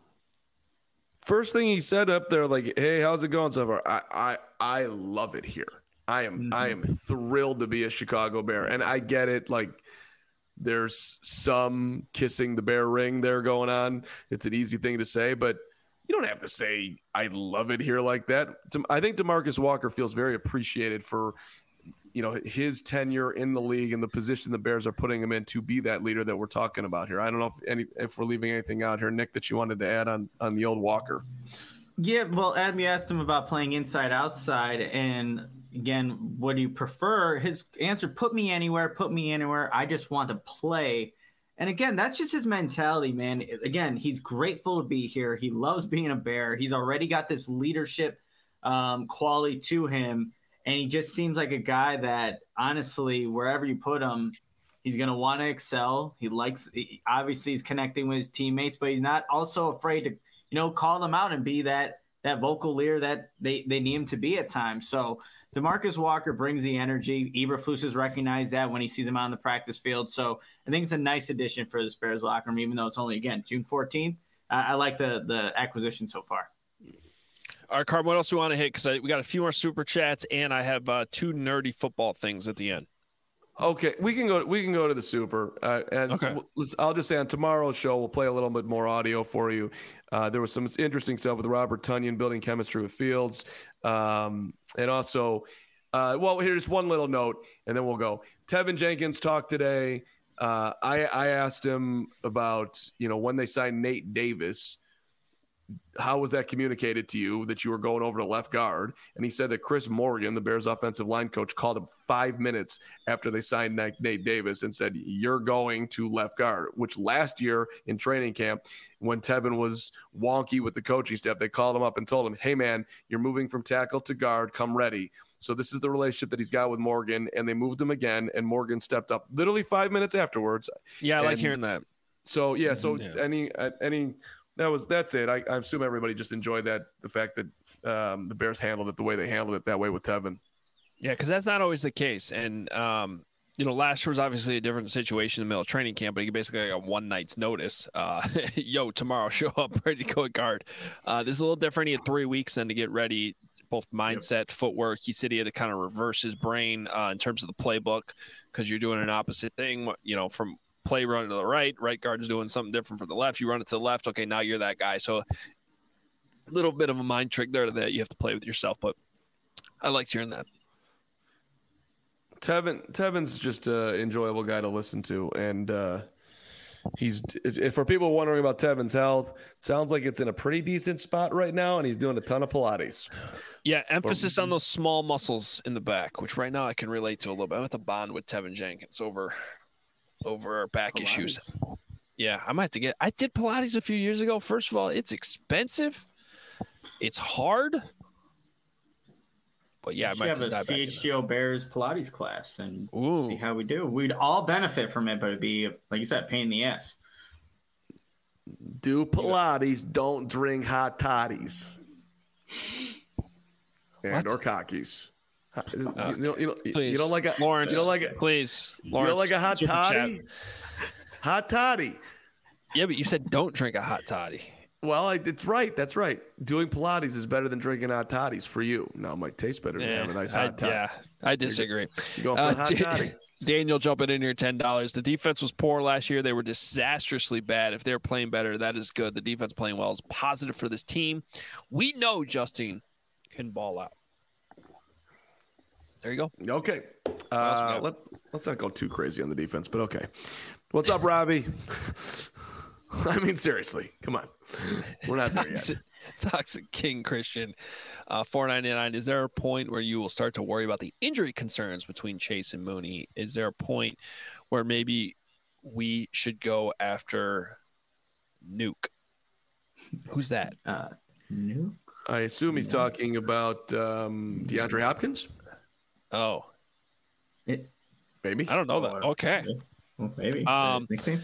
First thing he said up there, like, hey, how's it going so far? I I, I love it here. I am mm-hmm. I am thrilled to be a Chicago Bear. And I get it, like, there's some kissing the Bear ring there going on. It's an easy thing to say, but you don't have to say I love it here like that. I think DeMarcus Walker feels very appreciated for, you know, his tenure in the league and the position the Bears are putting him in to be that leader that we're talking about here. I don't know if any if we're leaving anything out here, Nick, that you wanted to add on on the old Walker. Yeah, well, Adam, you asked him about playing inside outside, and again, what do you prefer? His answer: put me anywhere, put me anywhere. I just want to play. And again, that's just his mentality, man. Again, he's grateful to be here. He loves being a Bear. He's already got this leadership um, quality to him. And he just seems like a guy that, honestly, wherever you put him, he's going to want to excel. He likes, he, obviously, he's connecting with his teammates, but he's not also afraid to, you know, call them out and be that that vocal leader that they, they need him to be at times. So DeMarcus Walker brings the energy. Eberflus has recognized that when he sees him on the practice field. So I think it's a nice addition for the Bears locker room, even though it's only, again, June fourteenth. Uh, I like the the acquisition so far. All right, Carm, what else do we want to hit? Because we got a few more super chats, and I have uh, two nerdy football things at the end. Okay, we can go. We can go to the super, uh, and okay. I'll just say on tomorrow's show we'll play a little bit more audio for you. Uh, there was some interesting stuff with Robert Tonyan building chemistry with Fields, um, and also, uh, well, here's one little note, and then we'll go. Tevin Jenkins talked today. Uh, I, I asked him about, you know, when they signed Nate Davis. How was that communicated to you that you were going over to left guard? And he said that Chris Morgan, the Bears offensive line coach, called him five minutes after they signed Nate Davis and said, you're going to left guard, which last year in training camp, when Tevin was wonky with the coaching staff, they called him up and told him, hey, man, you're moving from tackle to guard. Come ready. So this is the relationship that he's got with Morgan, and they moved him again, and Morgan stepped up literally five minutes afterwards. Yeah, I like and hearing that. So, yeah, so yeah. any any – That was that's it. I, I assume everybody just enjoyed that the fact that um, the Bears handled it the way they handled it that way with Tevin. Yeah, because that's not always the case. And um, you know, last year was obviously a different situation in the middle of training camp, but he basically got one night's notice. Uh, Yo, tomorrow, show up ready to go at guard. Uh, this is a little different. He had three weeks then to get ready, both mindset, yep. footwork. He said he had to kind of reverse his brain uh, in terms of the playbook because you're doing an opposite thing. You know, from play run to the right, right guard is doing something different from the left. You run it to the left. Okay, now you're that guy. So a little bit of a mind trick there that you have to play with yourself, but I liked hearing that. Tevin, Tevin's just an enjoyable guy to listen to. And uh, he's, if for people wondering about Tevin's health, sounds like it's in a pretty decent spot right now. And he's doing a ton of Pilates. Yeah. Emphasis on those small muscles in the back, which right now I can relate to a little bit. I have to bond with Tevin Jenkins over over our back Pilates. issues. Yeah, I might have to get – I did Pilates a few years ago. First of all, it's expensive. It's hard. But, yeah, I might have, have a C H G O Bears Pilates class and Ooh. see how we do. We'd all benefit from it, but it'd be, like you said, pain in the ass. Do Pilates, don't drink hot toddies. And What? or cockies. Uh, you, know, you, know, please. you don't like a Lawrence, you don't like a, please. you Lawrence, don't like a hot super toddy? chat. Hot toddy. Yeah, but you said don't drink a hot toddy. Well, I, it's right. That's right. Doing Pilates is better than drinking hot toddies for you. Now it might taste better than Yeah, having a nice I, hot toddy. yeah, I disagree. You going for Uh, a hot D- toddy? Daniel jumping in here, ten dollars. The defense was poor last year. They were disastrously bad. If they're playing better, that is good. The defense playing well is positive for this team. We know Justin can ball out. There you go. Okay. Uh, let, let's not go too crazy on the defense, but okay. What's up, Robbie? I mean, seriously. Come on. We're not there yet. Toxic King Christian, uh, four ninety-nine. Is there a point where you will start to worry about the injury concerns between Chase and Mooney? Is there a point where maybe we should go after Nuke? Who's that? Uh, Nuke? I assume he's talking about um, DeAndre Hopkins? Oh. It, Maybe. I don't know that. Okay. well, maybe. Um, nickname?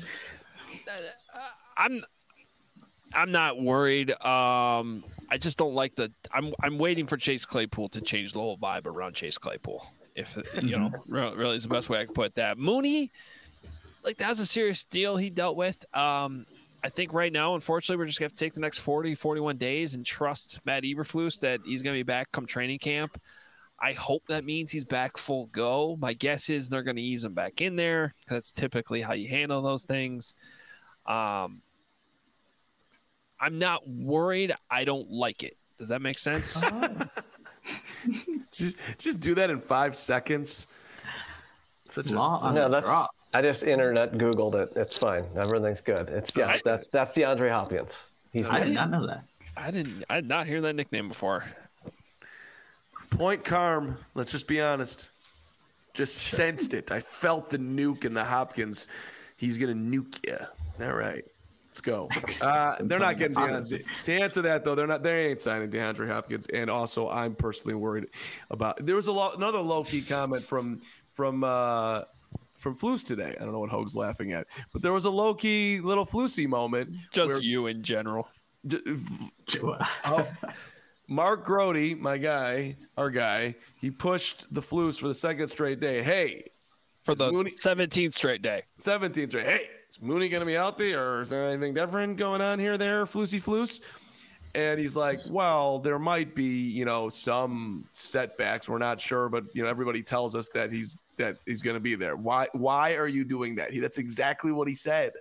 I'm I'm not worried. Um, I just don't like the. I'm I'm waiting for Chase Claypool to change the whole vibe around Chase Claypool. If you know, really is the best way I can put that. Mooney, like that was a serious deal he dealt with. Um, I think right now, unfortunately, we're just going to have to take the next forty, forty-one days and trust Matt Eberflus that he's going to be back come training camp. I hope that means he's back full go. My guess is they're going to ease him back in there because that's typically how you handle those things. Um, I'm not worried. I don't like it. Does that make sense? just, just do that in five seconds. Such a law on no, the that's, drop. I just internet Googled it. It's fine. Everything's good. It's yeah, I, that's that's DeAndre Hopkins. He's I good. did not know that. I didn't. I did not hear that nickname before. Point Carm. Let's just be honest. Just sensed it. I felt the nuke in the Hopkins. He's gonna nuke you. All right, let's go. Uh, they're not getting DeAndre. To answer that though, they're not. They ain't signing DeAndre Hopkins. And also, I'm personally worried about. There was a lo- another low key comment from from uh, from Flus today. I don't know what Hoag's laughing at, but there was a low key little Flusy moment. Just where, you in general. oh, Mark Grody, my guy, our guy, he pushed the Flus for the second straight day. Hey, for the Mooney- seventeenth straight day. seventeenth straight. Hey, is Mooney going to be out there, or is there anything different going on here, there, Flusy Flus? And he's like, well, there might be, you know, some setbacks. We're not sure, but you know, everybody tells us that he's that he's going to be there. Why? Why are you doing that? He, that's exactly what he said.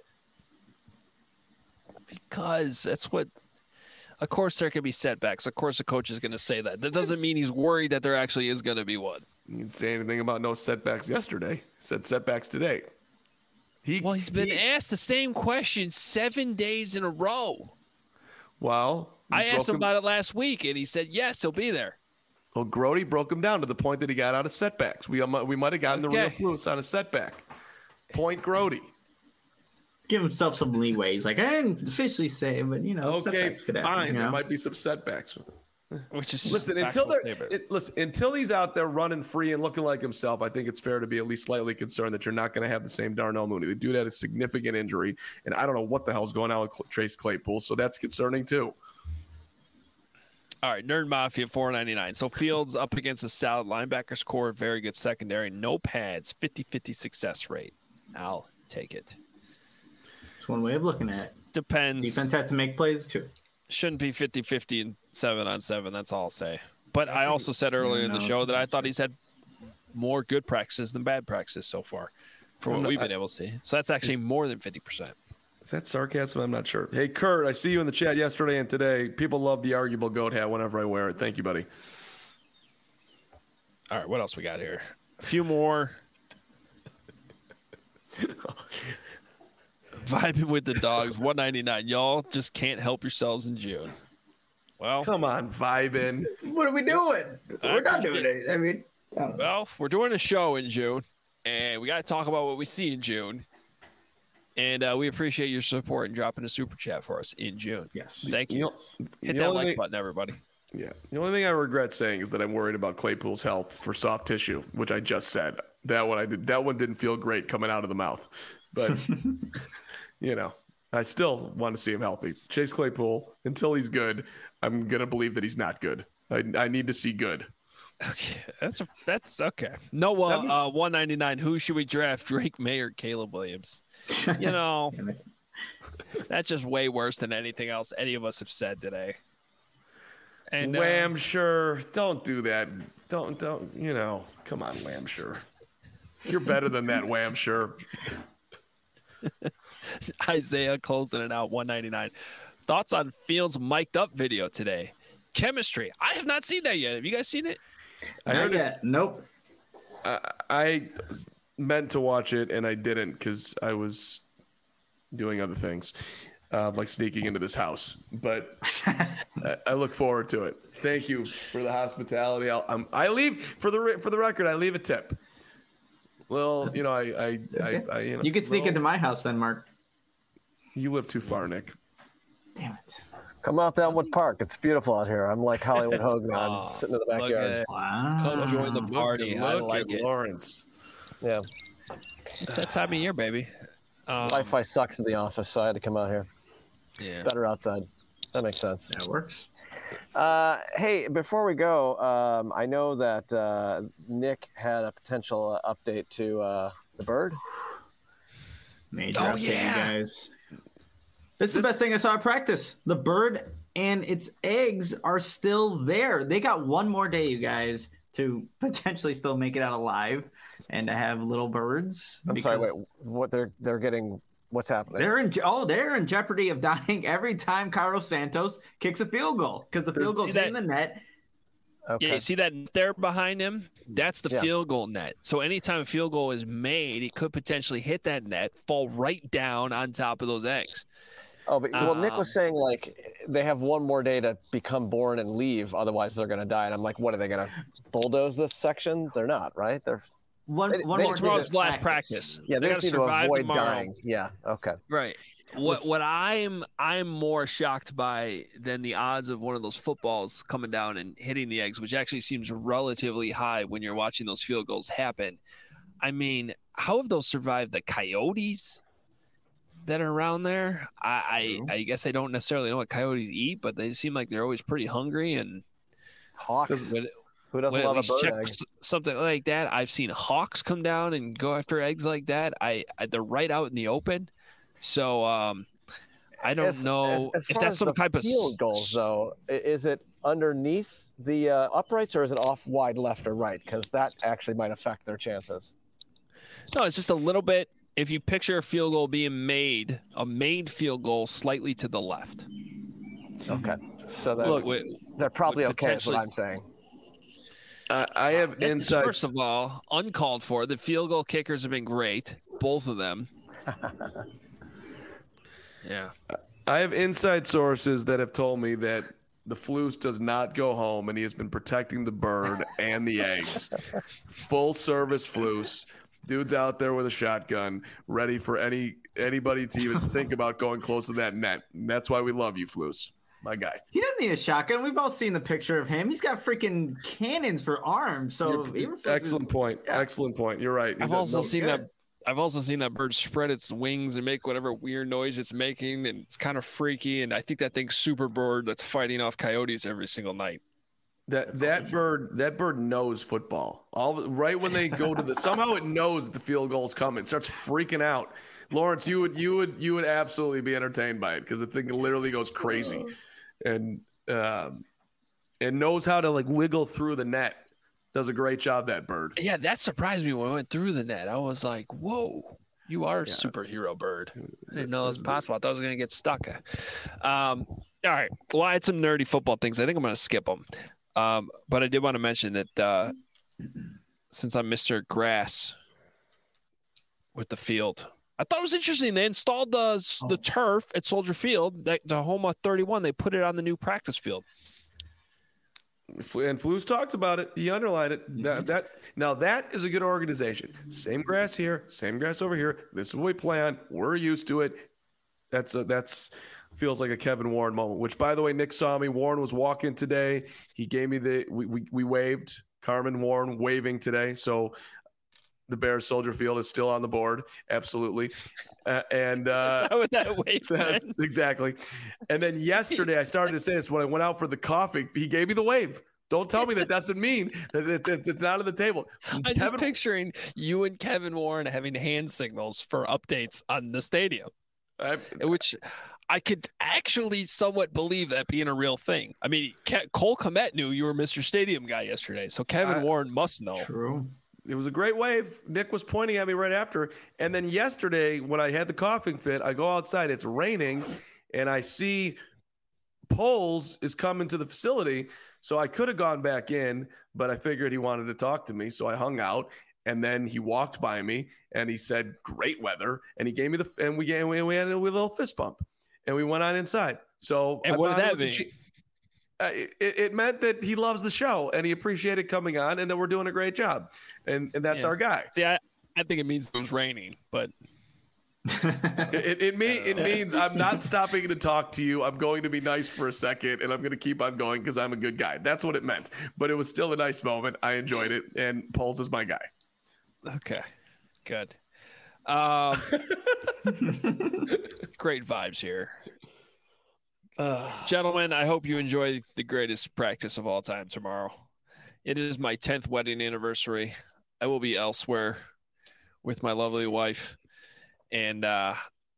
Because that's what. Of course, there could be setbacks. Of course, the coach is going to say that. That doesn't mean he's worried that there actually is going to be one. He didn't say anything about no setbacks yesterday. He said setbacks today. He, Well, he's been he, asked the same question seven days in a row. Well, I asked him about it last week, and he said, yes, he'll be there. Well, Grody broke him down to the point that he got out of setbacks. We um, we might have gotten Okay. the real Flus on a setback. Point Grody. Give himself some leeway. He's like, I didn't officially say, but you know, Okay, setbacks could happen, fine. you There know? might be some setbacks. Which is just Listen, a until factual they're statement. it, listen until he's out there running free and looking like himself, I think it's fair to be at least slightly concerned that you're not going to have the same Darnell Mooney. The dude had a significant injury, and I don't know what the hell's going on with Cl- Trace Claypool, so that's concerning too. All right, Nerd Mafia four ninety-nine. So Fields up against a solid linebackers core, very good secondary, no pads, fifty-fifty success rate. I'll take it. It's one way of looking at it. Depends. Defense has to make plays too. Shouldn't be fifty-fifty and seven on seven. That's all I'll say. But I also said earlier in the No, show that I that's thought true. he's had more good practices than bad practices so far for what not- we've been able to see. So that's actually more than fifty percent. Is that sarcasm? I'm not sure. Hey, Kurt, I see you in the chat yesterday and today. People love the arguable goat hat whenever I wear it. Thank you, buddy. All right, what else we got here? A few more. Vibing with the dogs, one ninety-nine. Y'all just can't help yourselves in June. Well, Come on, vibing. What are we doing? I We're not appreciate- doing anything. I mean, I don't know. well, we're doing a show in June, and we got to talk about what we see in June. And uh, we appreciate your support and dropping a super chat for us in June. Yes. Thank you. You know- Hit the that only like thing- button, everybody. Yeah. The only thing I regret saying is that I'm worried about Claypool's health for soft tissue, which I just said. That one I did. That one didn't feel great coming out of the mouth, but you know, I still want to see him healthy. Chase Claypool, until he's good, I'm gonna believe that he's not good. I, I need to see good. Okay, that's a, that's okay. Noah, uh, one ninety-nine. Who should we draft? Drake May or Caleb Williams? You know, Damn it. that's just way worse than anything else any of us have said today. And uh, Wham, sure. Don't do that. Don't don't. You know, come on, Wham, sure. You're better than that, Wham, sure. Isaiah closing it out, one ninety-nine. Thoughts on Fields' mic'd up video today? Chemistry. I have not seen that yet. Have you guys seen it? I Not heard it's, yet. Nope. I, I meant to watch it and I didn't because I was doing other things, uh, like sneaking into this house. But I, I look forward to it. Thank you for the hospitality. I'll, um, I leave for the re- for the record. I leave a tip. Well, you know, I, I, I, I you know, You can sneak little- into my house then, Mark. You live too far, Nick. Damn it. Come out to Elmwood Park. It's beautiful out here. I'm like Hollywood Hogan. I'm Oh, sitting in the Look at backyard. it. Wow. Come join the Look party. at- I look like at it. Lawrence. Yeah. It's that time of year, baby. Um, Wi-Fi sucks in the office, so I had to come out here. yeah. Better outside. That makes sense. That works. Uh, hey, before we go, um, I know that uh, Nick had a potential uh, update to uh, the bird. Major Oh, update, yeah. you guys. This is the best thing I saw at practice. The bird and its eggs are still there. They got one more day, you guys, to potentially still make it out alive and to have little birds. I'm sorry, wait, what they're they're getting? What's happening? They're in oh, they're in jeopardy of dying every time Carlos Santos kicks a field goal because the field goal's in the net. Okay. Yeah, you see that there behind him? That's the Yeah. field goal net. So anytime a field goal is made, it could potentially hit that net, fall right down on top of those eggs. Oh, but well, Nick Um, was saying like they have one more day to become born and leave, otherwise they're going to die. And I'm like, what are they going to bulldoze this section? They're not, right? They're One, They- one they more just day Tomorrow's to the last practice. practice. yeah, they they got just to need to survive avoid tomorrow. dying. Yeah, okay. Right. What what I'm I'm more shocked by than the odds of one of those footballs coming down and hitting the eggs, which actually seems relatively high when you're watching those field goals happen. I mean, how have those survived the coyotes that are around there? I I, I guess I don't necessarily know what coyotes eat, but they seem like they're always pretty hungry and Hawks. would, Who doesn't would at love a least bird check egg? s- something like that. I've seen hawks come down and go after eggs like that. I, I they're right out in the open. So um, I don't As- know as- as if far that's as some the type of field s- goals, though. i- Is it underneath the uh, uprights or is it off wide left or right? Because that actually might affect their chances. No, it's just a little bit. If you picture a field goal being made, a made field goal slightly to the left. Okay, so that Look, Wait, they're probably would okay. Is what potentially- I'm saying. I, I have it's, insights. first of all, uncalled for. The field goal kickers have been great, both of them. Yeah. I have inside sources that have told me that the Flus does not go home, and he has been protecting the bird and the eggs. Full service Flus. Dude's out there with a shotgun, ready for any anybody to even think about going close to that net. And that's why we love you, Flus, my guy. He doesn't need a shotgun. We've all seen the picture of him. He's got freaking cannons for arms. So You're- he refuses- excellent point. Yeah. Excellent point. You're right. He I've does- also no- seen good. that. I've also seen that bird spread its wings and make whatever weird noise it's making, and it's kind of freaky. And I think that thing's super bird that's fighting off coyotes every single night. That that bird that bird knows football. All right when they go to the somehow it knows the field goal's coming. It starts freaking out. Lawrence, you would you would you would absolutely be entertained by it because the thing literally goes crazy, and um, it knows how to like wiggle through the net. Does a great job, that bird. Yeah, that surprised me when I went through the net. I was like, "Whoa, you are a superhero bird." I didn't know that was possible. I thought I was going to get stuck. Um, all right. Well, I had some nerdy football things. I think I'm going to skip them. Um, but I did want to mention that uh, since I'm Mister Grass with the field, I thought it was interesting. They installed the the turf at Soldier Field, that the Homa thirty-one. They put it on the new practice field. And Flus talked about it. He underlined it. That, that now that is a good organization. Same grass here, same grass over here. This is what we plan. We're used to it. That's a, that's feels like a Kevin Warren moment. Which, by the way, Nick saw me. Warren was walking today. He gave me the we we, we waved. Carmen Warren waving today. So the Bears Soldier Field is still on the board. Absolutely. Uh, and uh, How would that wave? that- man? exactly. And then yesterday, I started to say this when I went out for the coffee. He gave me the wave. Don't tell me that doesn't mean that it, it, it's not on the table. I'm Kevin, just picturing you and Kevin Warren having hand signals for updates on the stadium, I, which I could actually somewhat believe that being a real thing. I mean, Ke- Cole Kmet knew you were Mister Stadium guy yesterday, so Kevin I- Warren must know. True. it was a great wave. Nick was pointing at me right after. And then yesterday, when I had the coughing fit, I go outside. It's raining, and I see Poles is coming to the facility. So I could have gone back in, but I figured he wanted to talk to me. So I hung out, and then he walked by me and he said, "Great weather." And he gave me the, and we gave, we had a little fist bump, and we went on inside. So And I what did bonded that with the mean? Chi- Uh, it, it meant that he loves the show and he appreciated coming on and that we're doing a great job. And, and that's Yeah. our guy. See, I, I think it means it was raining, but It, it, mean, it means I'm not stopping to talk to you. I'm going to be nice for a second and I'm going to keep on going because I'm a good guy. That's what it meant. But it was still a nice moment. I enjoyed it. And Poles is my guy. okay, good. Um, great vibes here. Uh, Gentlemen, I hope you enjoy the greatest practice of all time tomorrow. It is my tenth wedding anniversary. I will be elsewhere with my lovely wife, and uh,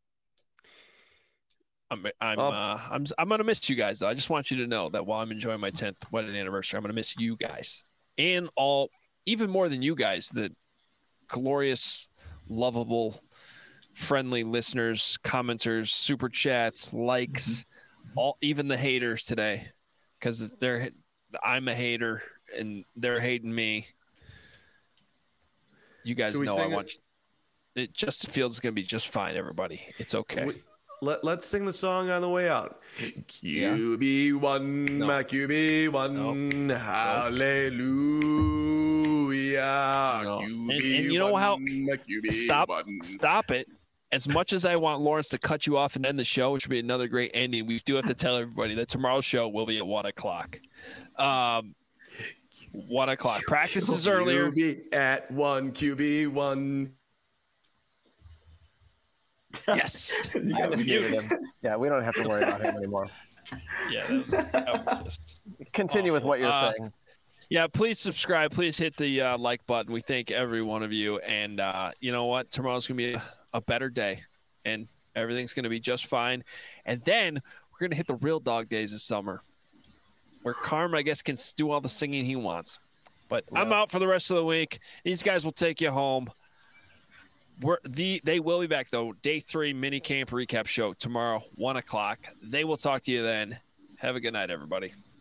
I'm I'm Um, uh, I'm I'm gonna miss you guys. Though I just want you to know that while I'm enjoying my tenth wedding anniversary, I'm gonna miss you guys, and all even more than you guys, the glorious, lovable, friendly listeners, commenters, super chats, likes. Mm-hmm. All even the haters today, because they're I'm a hater and they're hating me. You guys know I want it? it. Justin Fields is gonna be just fine. Everybody, it's okay. We, let Let's sing the song on the way out. Q B one, no. my Q B one, no. hallelujah. No. Q B one, and, and you know how? my Q B stop! one. Stop it! As much as I want Lawrence to cut you off and end the show, which would be another great ending, we do have to tell everybody that tomorrow's show will be at one o'clock. Um, one o'clock. Practice is earlier. Q B at one. Q B one. Yes. I just muted him. Yeah, we don't have to worry about him anymore. Yeah, that was, that was just continue awful. with what you're uh, saying. Yeah, please subscribe. Please hit the uh, like button. We thank every one of you. And uh, you know what? Tomorrow's going to be a, a better day, and everything's going to be just fine. And then we're going to hit the real dog days this summer, where Carm, I guess, can do all the singing he wants. But yeah. I'm out for the rest of the week. These guys will take you home. We're the They will be back, though. Day three mini camp recap show tomorrow, one o'clock. They will talk to you then. Have a good night, everybody.